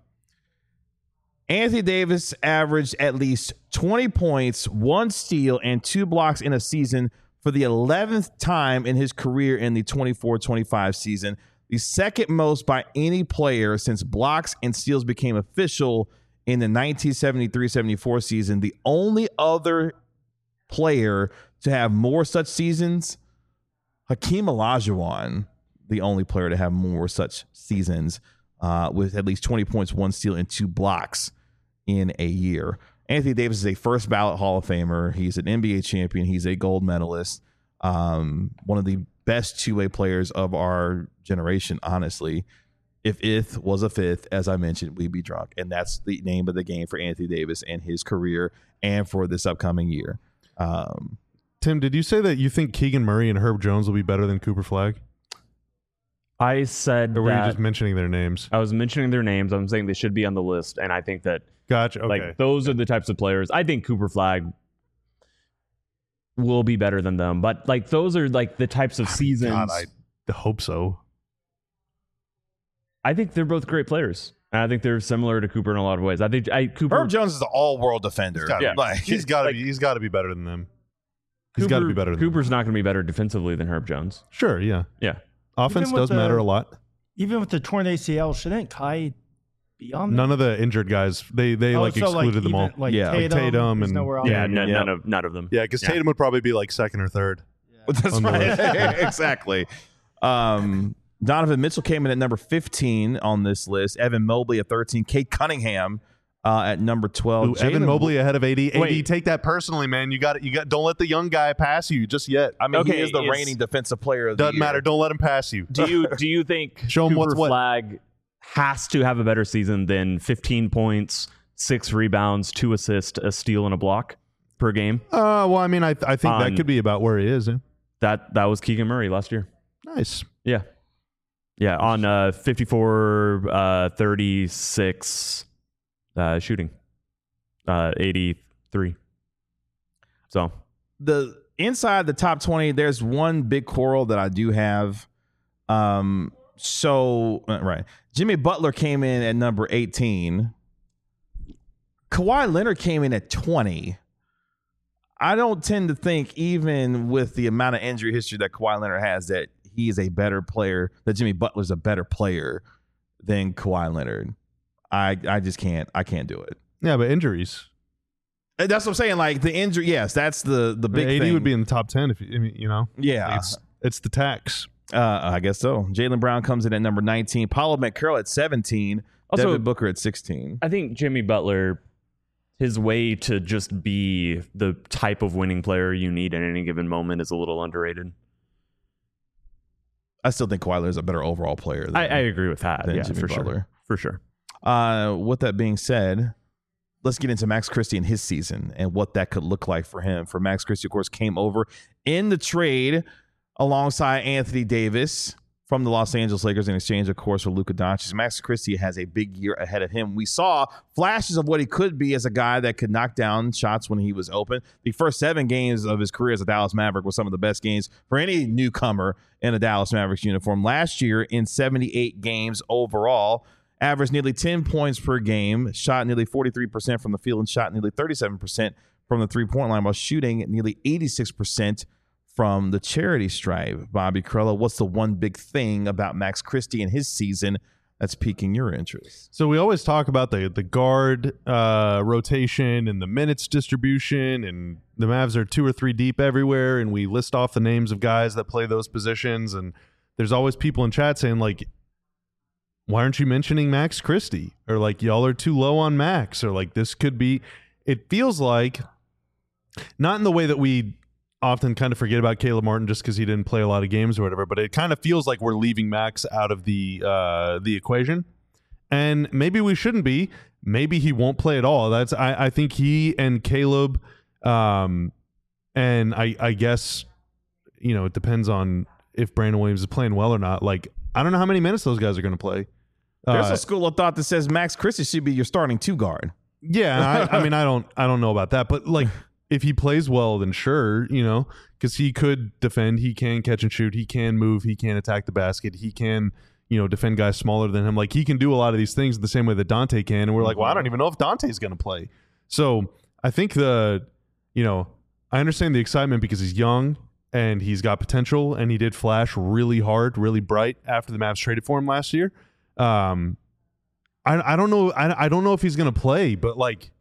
Anthony Davis averaged at least 20 points, 1 steal, and 2 blocks in a season for the 11th time in his career in the 24-25 season, the second most by any player since blocks and steals became official in the 1973-74 season. The only other player to have more such seasons, Hakeem Olajuwon, the only player to have more such seasons with at least 20 points, 1 steal, and 2 blocks in a year. Anthony Davis is a first ballot Hall of Famer. He's an NBA champion. He's a gold medalist. One of the best two-way players of our generation, honestly. If Ith was a fifth, as I mentioned, we'd be drunk. And that's the name of the game for Anthony Davis and his career and for this upcoming year. Tim, did you say that you think Keegan Murray and Herb Jones will be better than Cooper Flagg? I said Or were you that just mentioning their names? I was mentioning their names. I'm saying they should be on the list, and I think that Gotcha. Okay. like those are the types of players. I think Cooper Flagg will be better than them, but like those are like the types of seasons. God, I hope so. I think they're both great players. And I think they're similar to Cooper in a lot of ways. I think Cooper. Herb Jones is an all-world defender. He's got to be better than them. He's got to be better than Cooper's not going to be better defensively than Herb Jones. Sure, yeah. Yeah. Offense does matter a lot. Even with the torn ACL, shouldn't Kai be on there? None of the injured guys, they excluded them all. Like Tatum and nowhere on Yeah, there. none of them. Yeah, because Tatum would probably be like second or third. That's right. Exactly. Donovan Mitchell came in at number 15 on this list. Evan Mobley at 13. Kate Cunningham at number 12. Ooh, Evan Mobley ahead of AD. AD, take that personally, man. You got. Don't let the young guy pass you just yet. I mean, he is the reigning defensive player of the year. Doesn't matter. Don't let him pass you. Do you think Show him Cooper what's what. Flag has to have a better season than 15 points, 6 rebounds, 2 assists, a steal, and a block per game? Well, I mean, I think that could be about where he is. Yeah. That was Keegan Murray last year. Nice. Yeah. Yeah, on 54, 36 shooting, 83. So the inside the top 20, there's one big quarrel that I do have. Right. Jimmy Butler came in at number 18. Kawhi Leonard came in at 20. I don't tend to think, even with the amount of injury history that Kawhi Leonard has, that he is a better player, that Jimmy Butler's a better player than Kawhi Leonard. I just can't. I can't do it. Yeah, but injuries. And that's what I'm saying. Like the injury, yes, that's the big AD thing. would be in the top 10 if you know. Yeah, it's the tax. I guess so. Jaylen Brown comes in at number 19. Paulo McCurl at 17. Also, Devin Booker at 16. I think Jimmy Butler, his way to just be the type of winning player you need at any given moment is a little underrated. I still think Kawhi Leonard is a better overall player. I agree with that. Than Yeah, Jimmy for Butler. sure. For sure. With that being said, let's get into Max Christie and his season and what that could look like for him. For Max Christie, of course, came over in the trade alongside Anthony Davis from the Los Angeles Lakers in exchange, of course, for Luka Doncic. Max Christie has a big year ahead of him. We saw flashes of what he could be as a guy that could knock down shots when he was open. The first 7 games of his career as a Dallas Maverick were some of the best games for any newcomer in a Dallas Mavericks uniform. Last year, in 78 games overall, averaged nearly 10 points per game, shot nearly 43% from the field, and shot nearly 37% from the three-point line, while shooting nearly 86% from the charity stripe. Bobby Carrillo, what's the one big thing about Max Christie and his season that's piquing your interest? So we always talk about the guard rotation and the minutes distribution, and the Mavs are 2 or 3 deep everywhere, and we list off the names of guys that play those positions, and there's always people in chat saying, like, why aren't you mentioning Max Christie? Or like, y'all are too low on Max, or like, this could be. It feels like, not in the way that we often kind of forget about Caleb Martin just because he didn't play a lot of games or whatever, but it kind of feels like we're leaving Max out of the equation. And maybe we shouldn't be. Maybe he won't play at all. I think he and Caleb, and I guess, you know, it depends on if Brandon Williams is playing well or not. Like, I don't know how many minutes those guys are going to play. There's a school of thought that says Max Christie should be your starting 2 guard. Yeah, I mean, I don't know about that, but like, if he plays well, then sure, you know, because he could defend, he can catch and shoot, he can move, he can attack the basket, he can, you know, defend guys smaller than him. Like, he can do a lot of these things the same way that Dante can, and we're like, well, I don't even know if Dante's going to play. So I think I understand the excitement because he's young and he's got potential, and he did flash really hard, really bright after the Mavs traded for him last year. I don't know. I don't know if he's going to play, but like,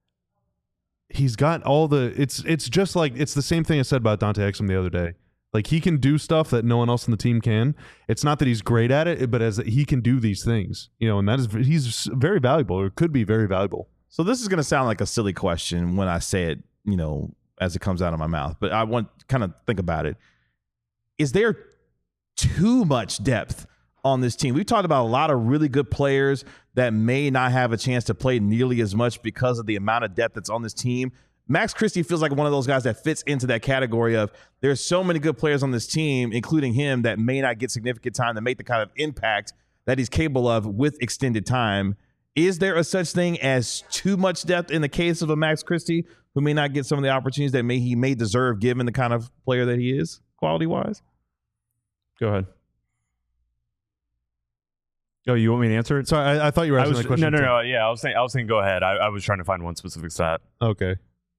he's got all the. It's just like, it's the same thing I said about Dante Exum the other day. Like, he can do stuff that no one else on the team can. It's not that he's great at it, but as he can do these things, you know, and he's very valuable, or could be very valuable. So this is going to sound like a silly question when I say it, you know, as it comes out of my mouth, but I want to kind of think about it. Is there too much depth on this team? We've talked about a lot of really good players that may not have a chance to play nearly as much because of the amount of depth that's on this team. Max Christie feels like one of those guys that fits into that category of there's so many good players on this team, including him, that may not get significant time to make the kind of impact that he's capable of with extended time. Is there a such thing as too much depth in the case of a Max Christie who may not get some of the opportunities that he may deserve given the kind of player that he is, quality-wise? Go ahead. Oh, you want me to answer it? Sorry, I thought you were asking that question. No. Yeah, I was saying go ahead. I was trying to find one specific stat. Okay.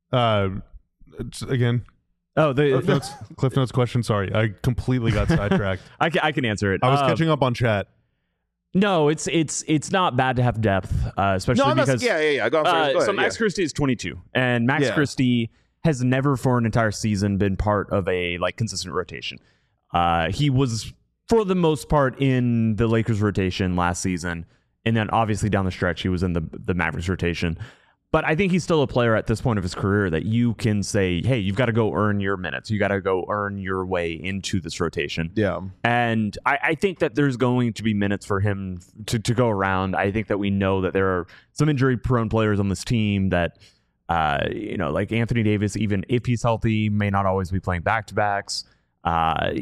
Again, Oh, Cliff Notes question. Sorry, I completely got sidetracked. I can answer it. I was catching up on chat. No, it's not bad to have depth, especially because Go ahead, so Max Christie is 22, and Max Christie has never for an entire season been part of a consistent rotation. He was for the most part in the Lakers rotation last season, and then obviously down the stretch he was in the Mavericks rotation. But I think he's still a player at this point of his career that you can say, hey, you've got to go earn your minutes. You got to go earn your way into this rotation. Yeah. And I think that there's going to be minutes for him to go around. I think that we know that there are some injury-prone players on this team that, like Anthony Davis, even if he's healthy, may not always be playing back-to-backs. I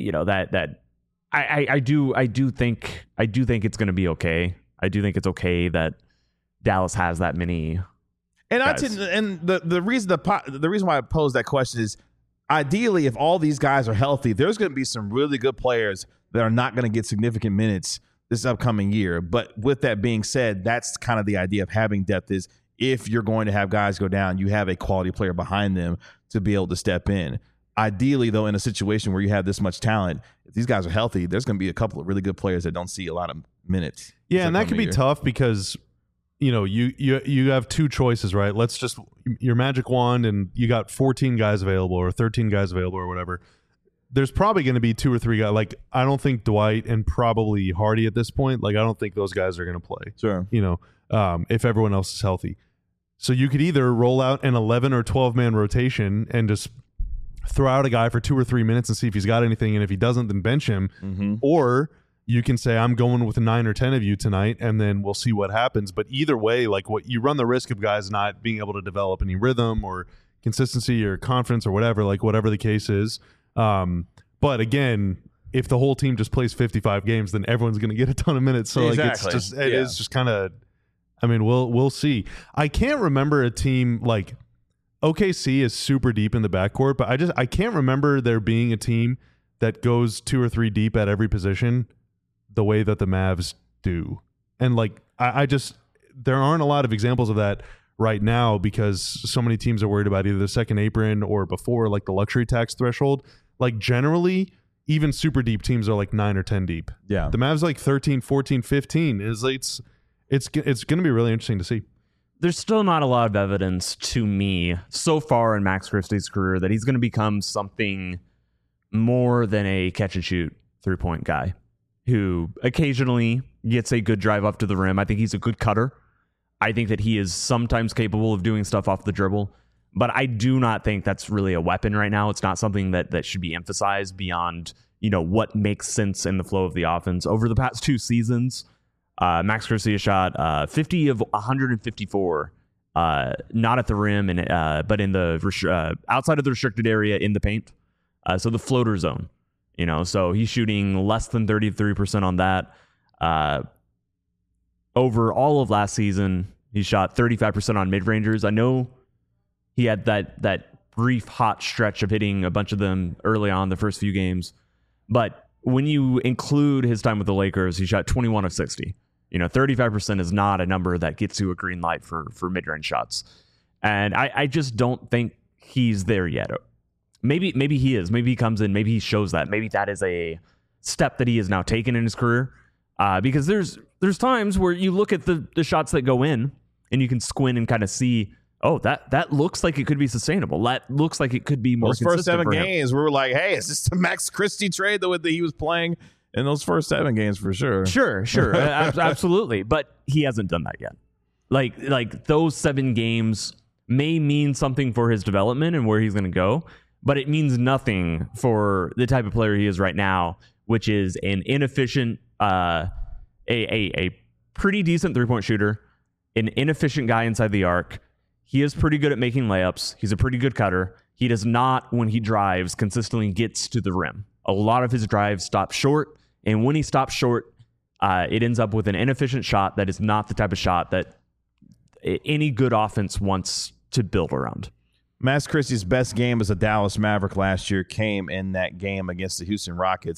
do think it's going to be okay. I do think it's okay that Dallas has that many. And the reason why I posed that question is, ideally, if all these guys are healthy, there's going to be some really good players that are not going to get significant minutes this upcoming year. But with that being said, that's kind of the idea of having depth is if you're going to have guys go down, you have a quality player behind them to be able to step in. Ideally, though, in a situation where you have this much talent, if these guys are healthy, there's going to be a couple of really good players that don't see a lot of minutes. Yeah, and that could be tough because you have two choices, right? Let's just your magic wand and you got 14 guys available or 13 guys available or whatever. There's probably going to be 2 or 3 guys. I don't think Dwight and probably Hardy at this point. I don't think those guys are going to play. Sure. If everyone else is healthy. So you could either roll out an 11 or 12 man rotation and just throw out a guy for 2 or 3 minutes and see if he's got anything. And if he doesn't, then bench him. Mm-hmm. Or you can say, I'm going with 9 or 10 of you tonight, and then we'll see what happens. But either way, what you run the risk of guys not being able to develop any rhythm or consistency or confidence or whatever, whatever the case is. But again, if the whole team just plays 55 games, then everyone's going to get a ton of minutes. So exactly. It is just kind of, we'll see. I can't remember a team OKC is super deep in the backcourt, but I can't remember there being a team that goes 2 or 3 deep at every position the way that the Mavs do. And there aren't a lot of examples of that right now because so many teams are worried about either the second apron or before the luxury tax threshold. Generally, even super deep teams are 9 or 10 deep. Yeah. The Mavs 13, 14, 15 it's going to be really interesting to see. There's still not a lot of evidence to me so far in Max Christie's career that he's going to become something more than a catch and shoot 3-point guy who occasionally gets a good drive up to the rim. I think he's a good cutter. I think that he is sometimes capable of doing stuff off the dribble, but I do not think that's really a weapon right now. It's not something that should be emphasized beyond, what makes sense in the flow of the offense. Over the past 2 seasons, Max Christie has shot 50 of 154, not at the rim, but in the outside of the restricted area in the paint. So the floater zone. So he's shooting less than 33% on that. Over all of last season, he shot 35% on mid-rangers. I know he had that brief hot stretch of hitting a bunch of them early on the first few games. But when you include his time with the Lakers, he shot 21 of 60. 35% is not a number that gets you a green light for mid-range shots. And I just don't think he's there yet. Maybe he is. Maybe he comes in. Maybe he shows that. Maybe that is a step that he has now taken in his career. Because there's times where you look at the shots that go in and you can squint and kind of see, that looks like it could be sustainable. That looks like it could be more consistent. Those first 7 games, we were like, hey, is this the Max Christie trade that he was playing in those first 7 games for sure? Sure. Absolutely. But he hasn't done that yet. Like those 7 games may mean something for his development and where he's going to go. But it means nothing for the type of player he is right now, which is an inefficient, a pretty decent 3-point shooter, an inefficient guy inside the arc. He is pretty good at making layups. He's a pretty good cutter. He does not, when he drives, consistently gets to the rim. A lot of his drives stop short, and when he stops short, it ends up with an inefficient shot that is not the type of shot that any good offense wants to build around. Max Christie's best game as a Dallas Maverick last year came in that game against the Houston Rockets,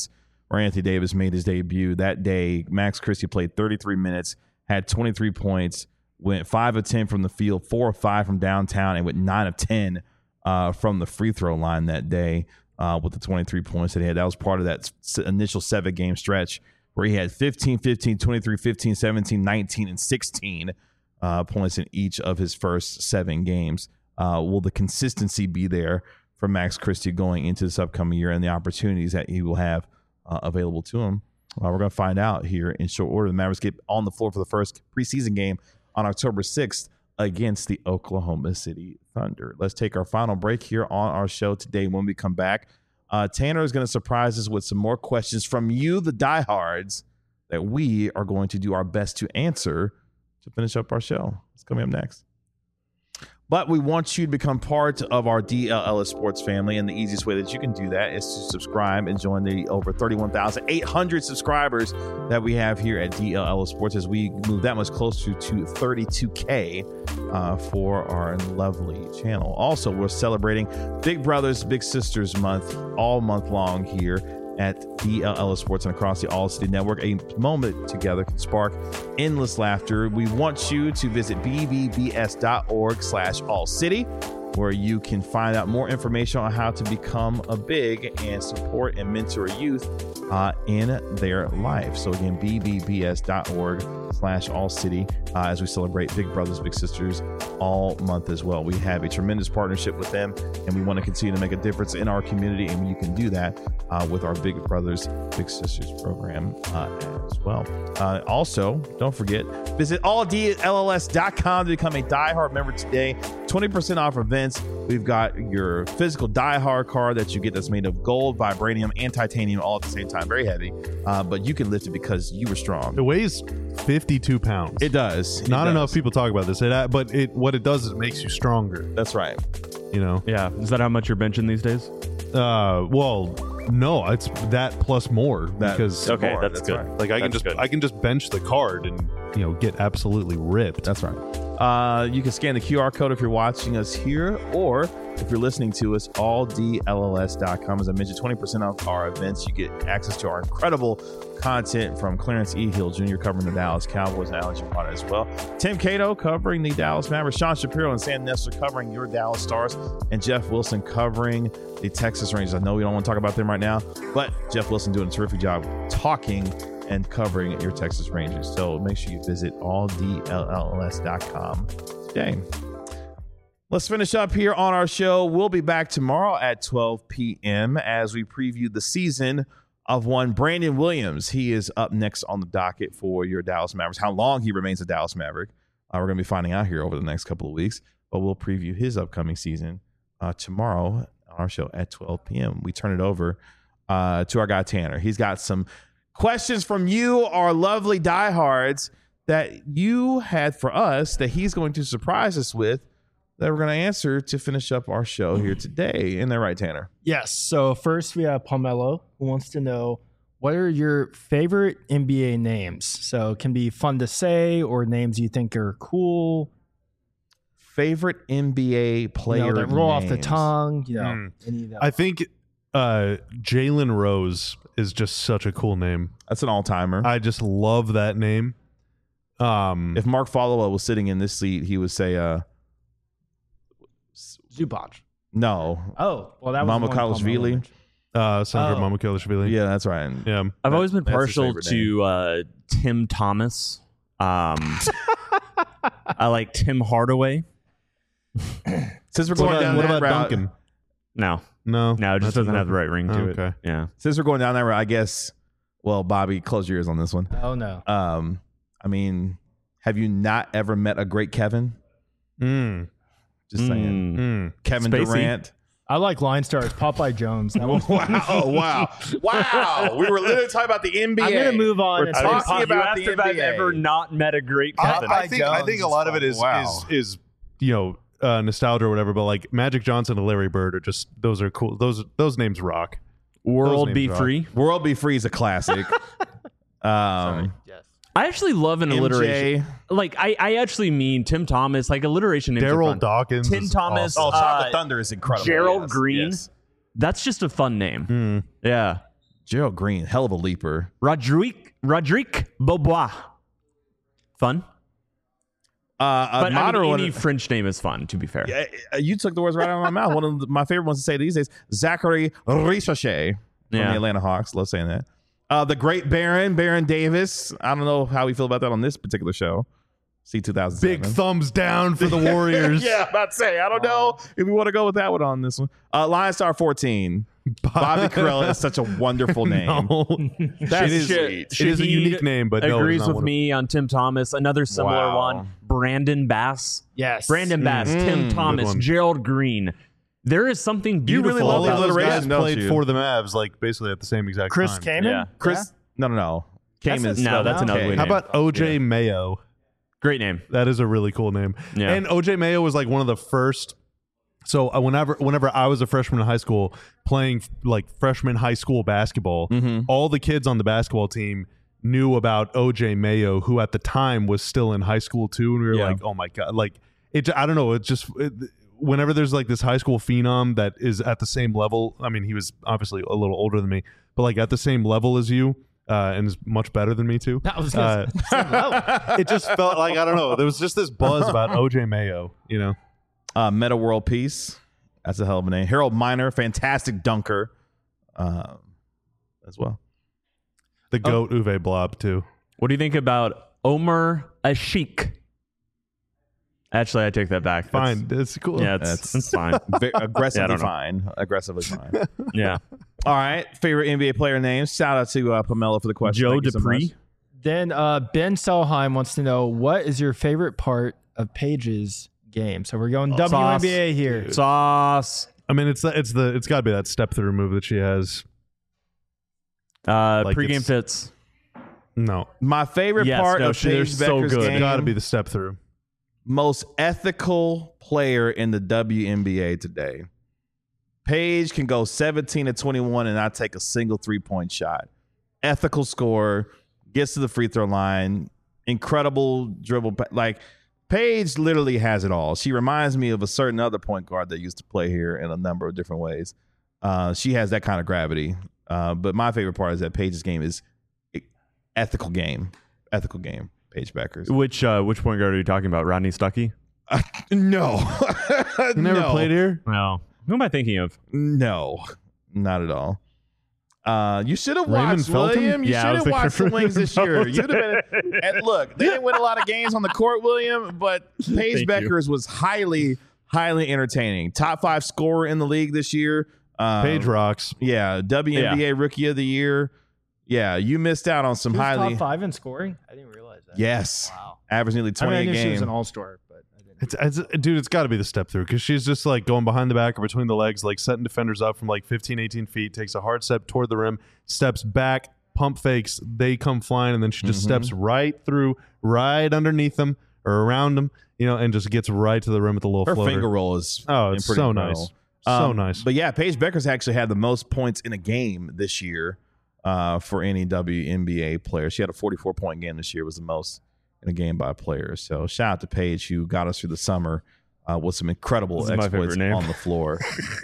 where Anthony Davis made his debut. That day, Max Christie played 33 minutes, had 23 points, went 5 of 10 from the field, 4 of 5 from downtown, and went 9 of 10 from the free throw line that day with the 23 points that he had. That was part of that initial 7-game stretch where he had 15, 15, 23, 15, 17, 19, and 16 points in each of his first 7 games. Will the consistency be there for Max Christie going into this upcoming year and the opportunities that he will have available to him? We're going to find out here in short order. The Mavericks get on the floor for the first preseason game on October 6th against the Oklahoma City Thunder. Let's take our final break here on our show today. When we come back, Tanner is going to surprise us with some more questions from you, the diehards, that we are going to do our best to answer to finish up our show. It's coming up next. But we want you to become part of our DLLS Sports family, and the easiest way that you can do that is to subscribe and join the over 31,800 subscribers that we have here at DLLS Sports as we move that much closer to 32K for our lovely channel. Also, we're celebrating Big Brothers Big Sisters month all month long here at DLLS Sports and across the All City Network. A moment together can spark endless laughter. We want you to visit bbbs.org/allcity, where you can find out more information on how to become a big and support and mentor youth in their life. So again, bbbs.org/allcity as we celebrate Big Brothers Big Sisters all month as well. We have a tremendous partnership with them, and we want to continue to make a difference in our community, and you can do that with our Big Brothers Big Sisters program as well. Also, don't forget, visit alldlls.com to become a diehard member today. 20% off events. We've got your physical diehard card that you get that's made of gold, vibranium, and titanium all at the same time. Very heavy, but you can lift it because you were strong. It weighs 52 pounds. It does. Not enough people talk about this. But what it does is it makes you stronger. That's right. You know? Yeah. Is that how much you're benching these days? Well, no, it's that plus more because okay, that's good. Right. Like I can just bench the card and get absolutely ripped. That's right. You can scan the QR code if you're watching us here, or if you're listening to us, alldlls.com. As I mentioned, 20% off our events. You get access to our incredible content from Clarence E. Hill Jr. covering the Dallas Cowboys and Alex Potter as well. Tim Cato covering the Dallas Mavericks. Sean Shapiro and Sam Nessler covering your Dallas Stars. And Jeff Wilson covering the Texas Rangers. I know we don't want to talk about them right now, but Jeff Wilson doing a terrific job talking and covering your Texas Rangers. So make sure you visit alldlls.com today. Let's finish up here on our show. We'll be back tomorrow at 12 p.m. as we preview the season of one Brandon Williams. He is up next on the docket for your Dallas Mavericks. How long he remains a Dallas Maverick, we're going to be finding out here over the next couple of weeks. But we'll preview his upcoming season tomorrow on our show at 12 p.m. We turn it over to our guy Tanner. He's got some questions from you, our lovely diehards, that you had for us that he's going to surprise us with, that we're going to answer to finish up our show here today. Isn't that right, Tanner? Yes. So first we have Pomelo, who wants to know, what are your favorite NBA names? So it can be fun to say or names you think are cool. Favorite NBA player that roll off the names. tongue. Any of that. I think Jalen Rose is just such a cool name. That's an all-timer. I just love that name. If Mark Followill was sitting in this seat, he would say Zubac. no. Oh, well, that was Mamukelashvili. Senator Mamukelashvili. Yeah, that's right. Yeah. I've always been that's his partial favorite to Tim Thomas. I like Tim Hardaway. Since we're going down What that about route, Duncan? No, No, it just doesn't have the right ring to Okay. it. Yeah. since we're going down that route, I guess. Well, Bobby, close your ears on this one. Oh, no. I mean, have you not ever met a great Kevin? Just saying. Kevin Spacey. Durant. I like line stars. Popeye Jones. That was Wow. We were literally talking about the NBA. I'm going to move on. We're and talking say- about the if I've NBA. ever not met a great Kevin. I think a lot of it is nostalgia or whatever, but like Magic Johnson and Larry Bird are just, those are cool. Those names rock. World names Be rock. Free. World Be Free is a classic. Yes. I actually love an alliteration. Like I actually mean Tim Thomas, like alliteration names are Daryl fun. Dawkins. Tim is Thomas. awesome. Chocolate Thunder is incredible. Gerald Yes, Green. yes. That's just a fun name. Yeah. Gerald Green, hell of a leaper. Rodrigue Beaubois. Fun. But any French name is fun, to be fair. You took the words right out of my mouth. One of my favorite ones to say these days, Zachary Richochet from the Atlanta Hawks. Love saying that. The great Baron Davis. I don't know how we feel about that on this particular show. C2007. Big thumbs down for the Warriors. Yeah, about to say. I don't know if we want to go with that one on this one. Lion Star 14. Bobby Karalla is such a wonderful name. No. That is It is a unique name, but no, agrees it's not with me on Tim Thomas. Another similar Wow. one, Brandon Bass. Yes. Brandon Bass, Tim Thomas, one. Gerald Green. There is something You really beautiful love all the of about those alliteration, guys don't played you? for the Mavs, like basically at the same exact Chris time. Kaman? Yeah. Chris? No. Came That's is a- No, that's an Okay. ugly How name. about OJ Mayo? Great name. That is a really cool name. Yeah. And OJ Mayo was like one of the first. So whenever I was a freshman in high school playing like freshman high school basketball, all the kids on the basketball team knew about OJ Mayo, who at the time was still in high school too, and we were Yeah. like, oh my god, like it. I don't know. Whenever there's like this high school phenom that is at the same level. I mean, he was obviously a little older than me, but like at the same level as you. And is much better than me too. I was gonna say, It just felt like I don't know. There was just this buzz about OJ Mayo, you know. Meta World Peace. That's a hell of a name. Harold Miner, fantastic dunker as well. The goat Uwe Blob too. What do you think about Omer Ashik? Actually, I take that back. Fine, it's cool. Yeah, That's- it's fine. Aggressively don't know. fine. Aggressively fine. Yeah. All right. Favorite NBA player names. Shout out to Pamela for the question. Joe Thank you so Dupree. much. then Ben Selheim wants to know, what is your favorite part of Paige's game? So we're going WNBA here. Sauce. I mean, it's got to be that step through move that she has. Like Pre-game it's- fits. No, My favorite Yes, part no, of they're Paige so Becker's good. game, got to be the step through. most ethical player in the WNBA today. Paige can go 17 to 21 and not take a single 3-point shot. Ethical scorer, gets to the free throw line, incredible dribble. Like, Paige literally has it all. She reminds me of a certain other point guard that used to play here in a number of different ways. She has that kind of gravity. But my favorite part is that Paige's game is ethical game. Paige Becker's. Which point guard are you talking about? Rodney Stuckey? No. You never No. played here. No. Who am I thinking of? No, not at all. You should have Raymond watched, Felton? William. You Yeah, I should was have thinking watched the of Wings this year. You'd have been. And look, they didn't win a lot of games on the court, William, but Paige Thank Beckers was highly entertaining. Top 5 scorer in the league this year. Paige rocks. Yeah, WNBA Rookie of the Year. Yeah, you missed out on some She was highly. top 5 in scoring? I didn't realize that. Yes, Wow. average nearly I 20 mean, I a knew she was game. an all-star, but I didn't. Dude, it's got to be the step through because she's just like going behind the back or between the legs, like setting defenders up from like 15, 18 feet, takes a hard step toward the rim, steps back, pump fakes, they come flying, and then she just steps right through, right underneath them or around them, you know, and just gets right to the rim with the little Her floater. finger roll is It's pretty so incredible. nice. So nice. But yeah, Paige Beckers actually had the most points in a game this year for any WNBA player. She had a 44-point game this year. It was the most in a game by a player. So shout out to Paige, who got us through the summer with some incredible This is my exploits favorite name. on the floor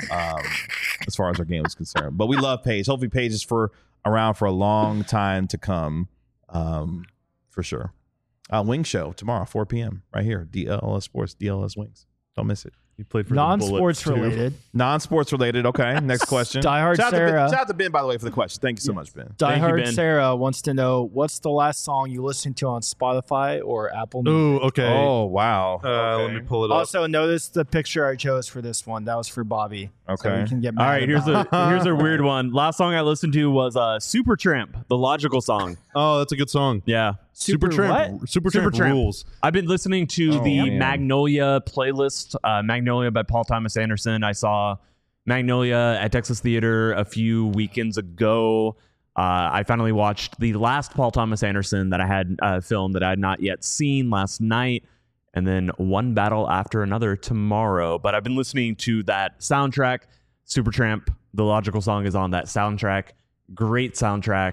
as far as our game is concerned. But we love Paige. Hopefully Paige is around for a long time to come for sure. Wing Show tomorrow, 4 p.m. right here. DLS Sports, DLS Wings. Don't miss it. You played for Non-sports the Bullets, too. related. Non-sports related. Okay, next question. Diehard shout Sarah. Shout out to Ben, by the way, for the question. Thank you so much, Ben. Thank you, Diehard Ben. Sarah wants to know, what's the last song you listened to on Spotify or Apple Music? Ooh, okay. Oh, wow. Let me pull it up. Also, notice the picture I chose for this one. That was for Bobby. So Okay. we can get All mad right, here's about a weird one. Last song I listened to was Supertramp, the Logical song. Oh, that's a good song. Yeah. Supertramp. Supertramp Supertramp. rules. I've been listening to the man. Magnolia playlist, Magnolia by Paul Thomas Anderson. I saw Magnolia at Texas Theater a few weekends ago. I finally watched the last Paul Thomas Anderson that I had filmed that I had not yet seen last night, and then One Battle After Another tomorrow. But I've been listening to that soundtrack. Supertramp, the Logical song, is on that soundtrack. Great soundtrack.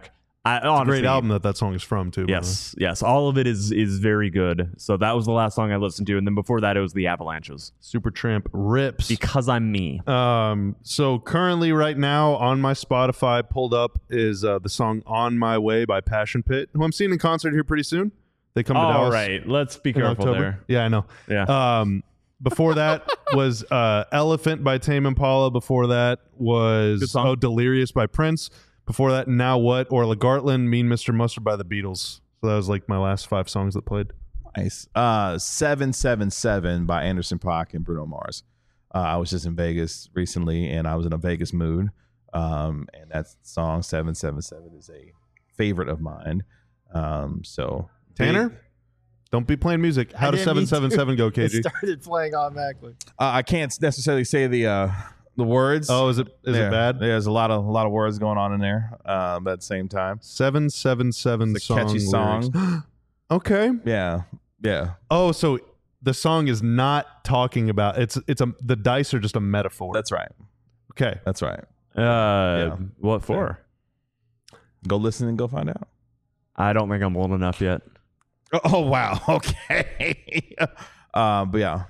Honestly, Great album that song is from too. by the way. Yes. All of it is very good. So that was the last song I listened to, and then before that, it was the Avalanches. Supertramp rips. Because I'm me. So currently, right now on my Spotify, pulled up is the song "On My Way" by Passion Pit, who I'm seeing in concert here pretty soon. They come to All Dallas right, let's be in careful October. there. Yeah, I know. Yeah. Before that was "Elephant" by Tame Impala. Before that Good was song. "Delirious" by Prince. Before that, "Now What" Orla Gartland, "Mean Mr. Mustard" by the Beatles. So that was like my last 5 songs that played. Nice. 777 by Anderson .Paak and Bruno Mars. I was just in Vegas recently, and I was in a Vegas mood. And that song 777 is a favorite of mine. So Tanner, don't be playing music. How does 777 go, It KG? started playing automatically. I can't necessarily say the words. Oh, is it bad? There's a lot of words going on in there. But at the same time, 777 it's a catchy song. Okay. Yeah. Oh, so the song is not talking about the dice are just a metaphor. That's right. Okay. That's right. What for? Go listen and go find out. I don't think I'm old enough yet. Oh wow. Okay. But yeah.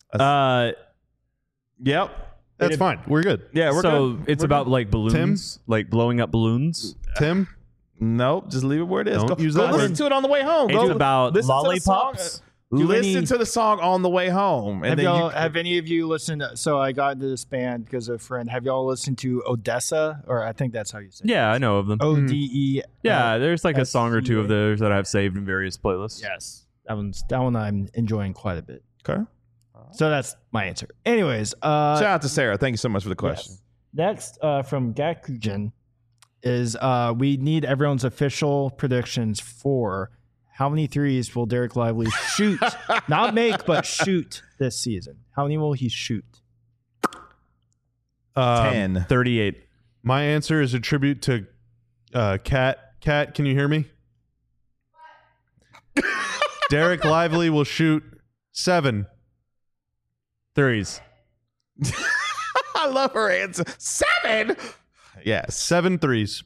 Yep. That's fine. We're good. Yeah, we're so good. it's We're about good. like balloons, like blowing up balloons. Tim, Nope, just leave it where it is. Don't Go, use go that listen word. to it on the way home. It's Go about listen to the song. lollipops. Listen to the song on the way home, and Have any of you listened? So I got into this band because of a friend. Have y'all listened to Odessa? Or I think that's how you say it. Yeah, I know of them. ODE. Yeah, there's like a song or two of SCA. theirs that I've saved in various playlists. Yes. That one I'm enjoying quite a bit. okay. So that's my answer. Anyways, Shout out to Sarah. Thank you so much for the question. yes. Next from Gakujin is we need everyone's official predictions for how many threes will Derek Lively shoot? Not make, but shoot this season. How many will he shoot? 10. 38. My answer is a tribute to Kat. Kat, can you hear me? Derek Lively will shoot 7. Threes. I love her answer. 7. Yes. 7 threes.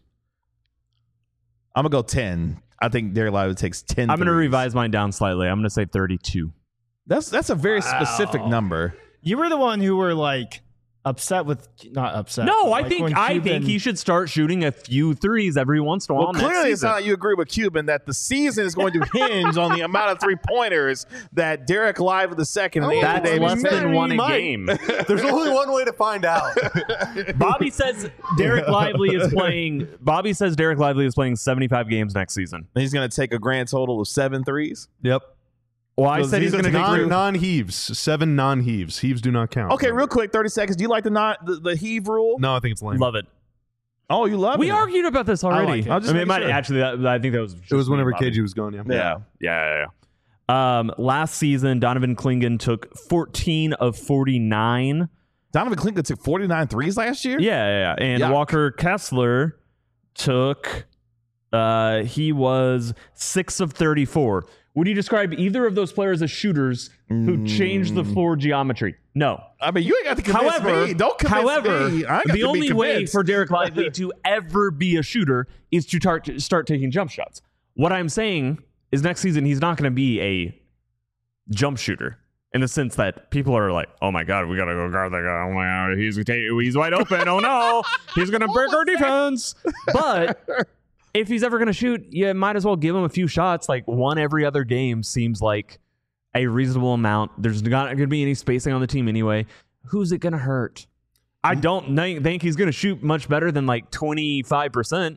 I'm gonna go 10. I think Derek Lively takes 10. I'm going to threes. revise mine down slightly. I'm going to say 32. That's a very specific number. You were the one who were like upset with, not upset. No, but, I like, think when I Cuban- think he should start shooting a few threes every once in a while. Well, next clearly it's season. not like you agree with Cuban that the season is going to hinge on the amount of 3-pointers that Derek Lively II and Anthony That's Davis less make. than one a might. game. There's only one way to find out. Bobby says Derek Lively is playing. Bobby says Derek Lively is playing 75 games next season. He's going to take a grand total of 7 threes. Yep. Well, I So said he's he's going to gonna take take Non-heaves. 7 non-heaves. Heaves do not count. Okay, real quick, 30 seconds. Do you like the heave rule? No, I think it's lame. Love it. Oh, you love We it. argued about this already. like it. I'll just I mean, make it might sure. actually. I think that was. It was whenever Bobby. KG was going, Yeah. Yeah. Last season, Donovan Klingon took 14 of 49. Donovan Clinton took 49 threes last year? Yeah. And Yuck. Walker Kessler took. He was 6 of 34. Would you describe either of those players as shooters who changed the floor geometry? No. I mean, you ain't got to convince me. Don't convince me. I ain't got the to only be way convinced. for Derek Lively to ever be a shooter is to start taking jump shots. What I'm saying is next season he's not going to be a jump shooter in the sense that people are like, oh my God, we got to go guard that guy. Oh my God, he's wide open. Oh no, he's going to break our defense. But if he's ever going to shoot, you might as well give him a few shots. Like one every other game seems like a reasonable amount. There's not going to be any spacing on the team anyway. Who's it going to hurt? I don't think he's going to shoot much better than like 25%.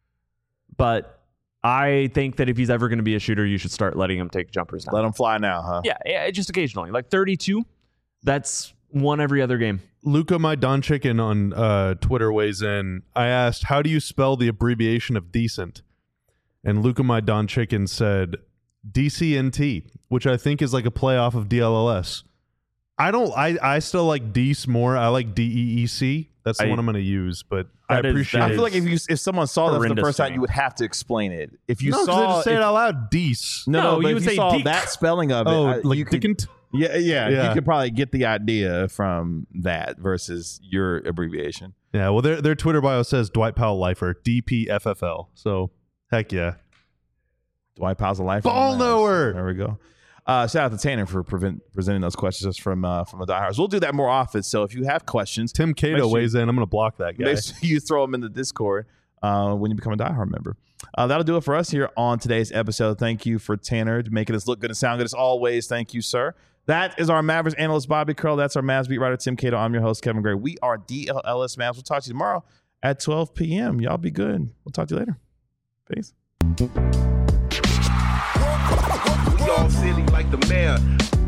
But I think that if he's ever going to be a shooter, you should start letting him take jumpers now. Let him fly now, huh? Yeah, just occasionally. Like 32, that's one every other game. Luka My Don Chicken on Twitter weighs in. I asked, how do you spell the abbreviation of decent? And Luka My Don Chicken said DCNT, which I think is like a play off of DLLS. I still like Deece more. I like DEEC. That's the one I'm going to use, but I That is- appreciate that I it. feel like if someone saw that for the horrendous first to time, me. you would have to explain it. If you No, 'cause I saw just say it out loud. Deece. No, No, but you if would you say saw Deek. that spelling of it, Oh, like you could, Dickent? yeah, Yeah. you could probably get the idea from that versus your abbreviation. Yeah, well, their Twitter bio says Dwight Powell lifer, DPFFL. So Heck yeah. Dwight Powell's a life. Ball knower. There we go. Shout out to Tanner for presenting those questions from the diehards. We'll do that more often. So if you have questions, Tim Cato weighs in. I'm going to block that guy. make sure you throw them in the Discord when you become a diehard member. That'll do it for us here on today's episode. Thank you for Tanner making us look good and sound good as always. Thank you, sir. That is our Mavericks analyst, Bobby Curl. That's our Mavs beat writer, Tim Cato. I'm your host, Kevin Gray. We are DLLS Mavs. We'll talk to you tomorrow at 12 p.m. Y'all be good. We'll talk to you later. Peace. We all silly like the mayor.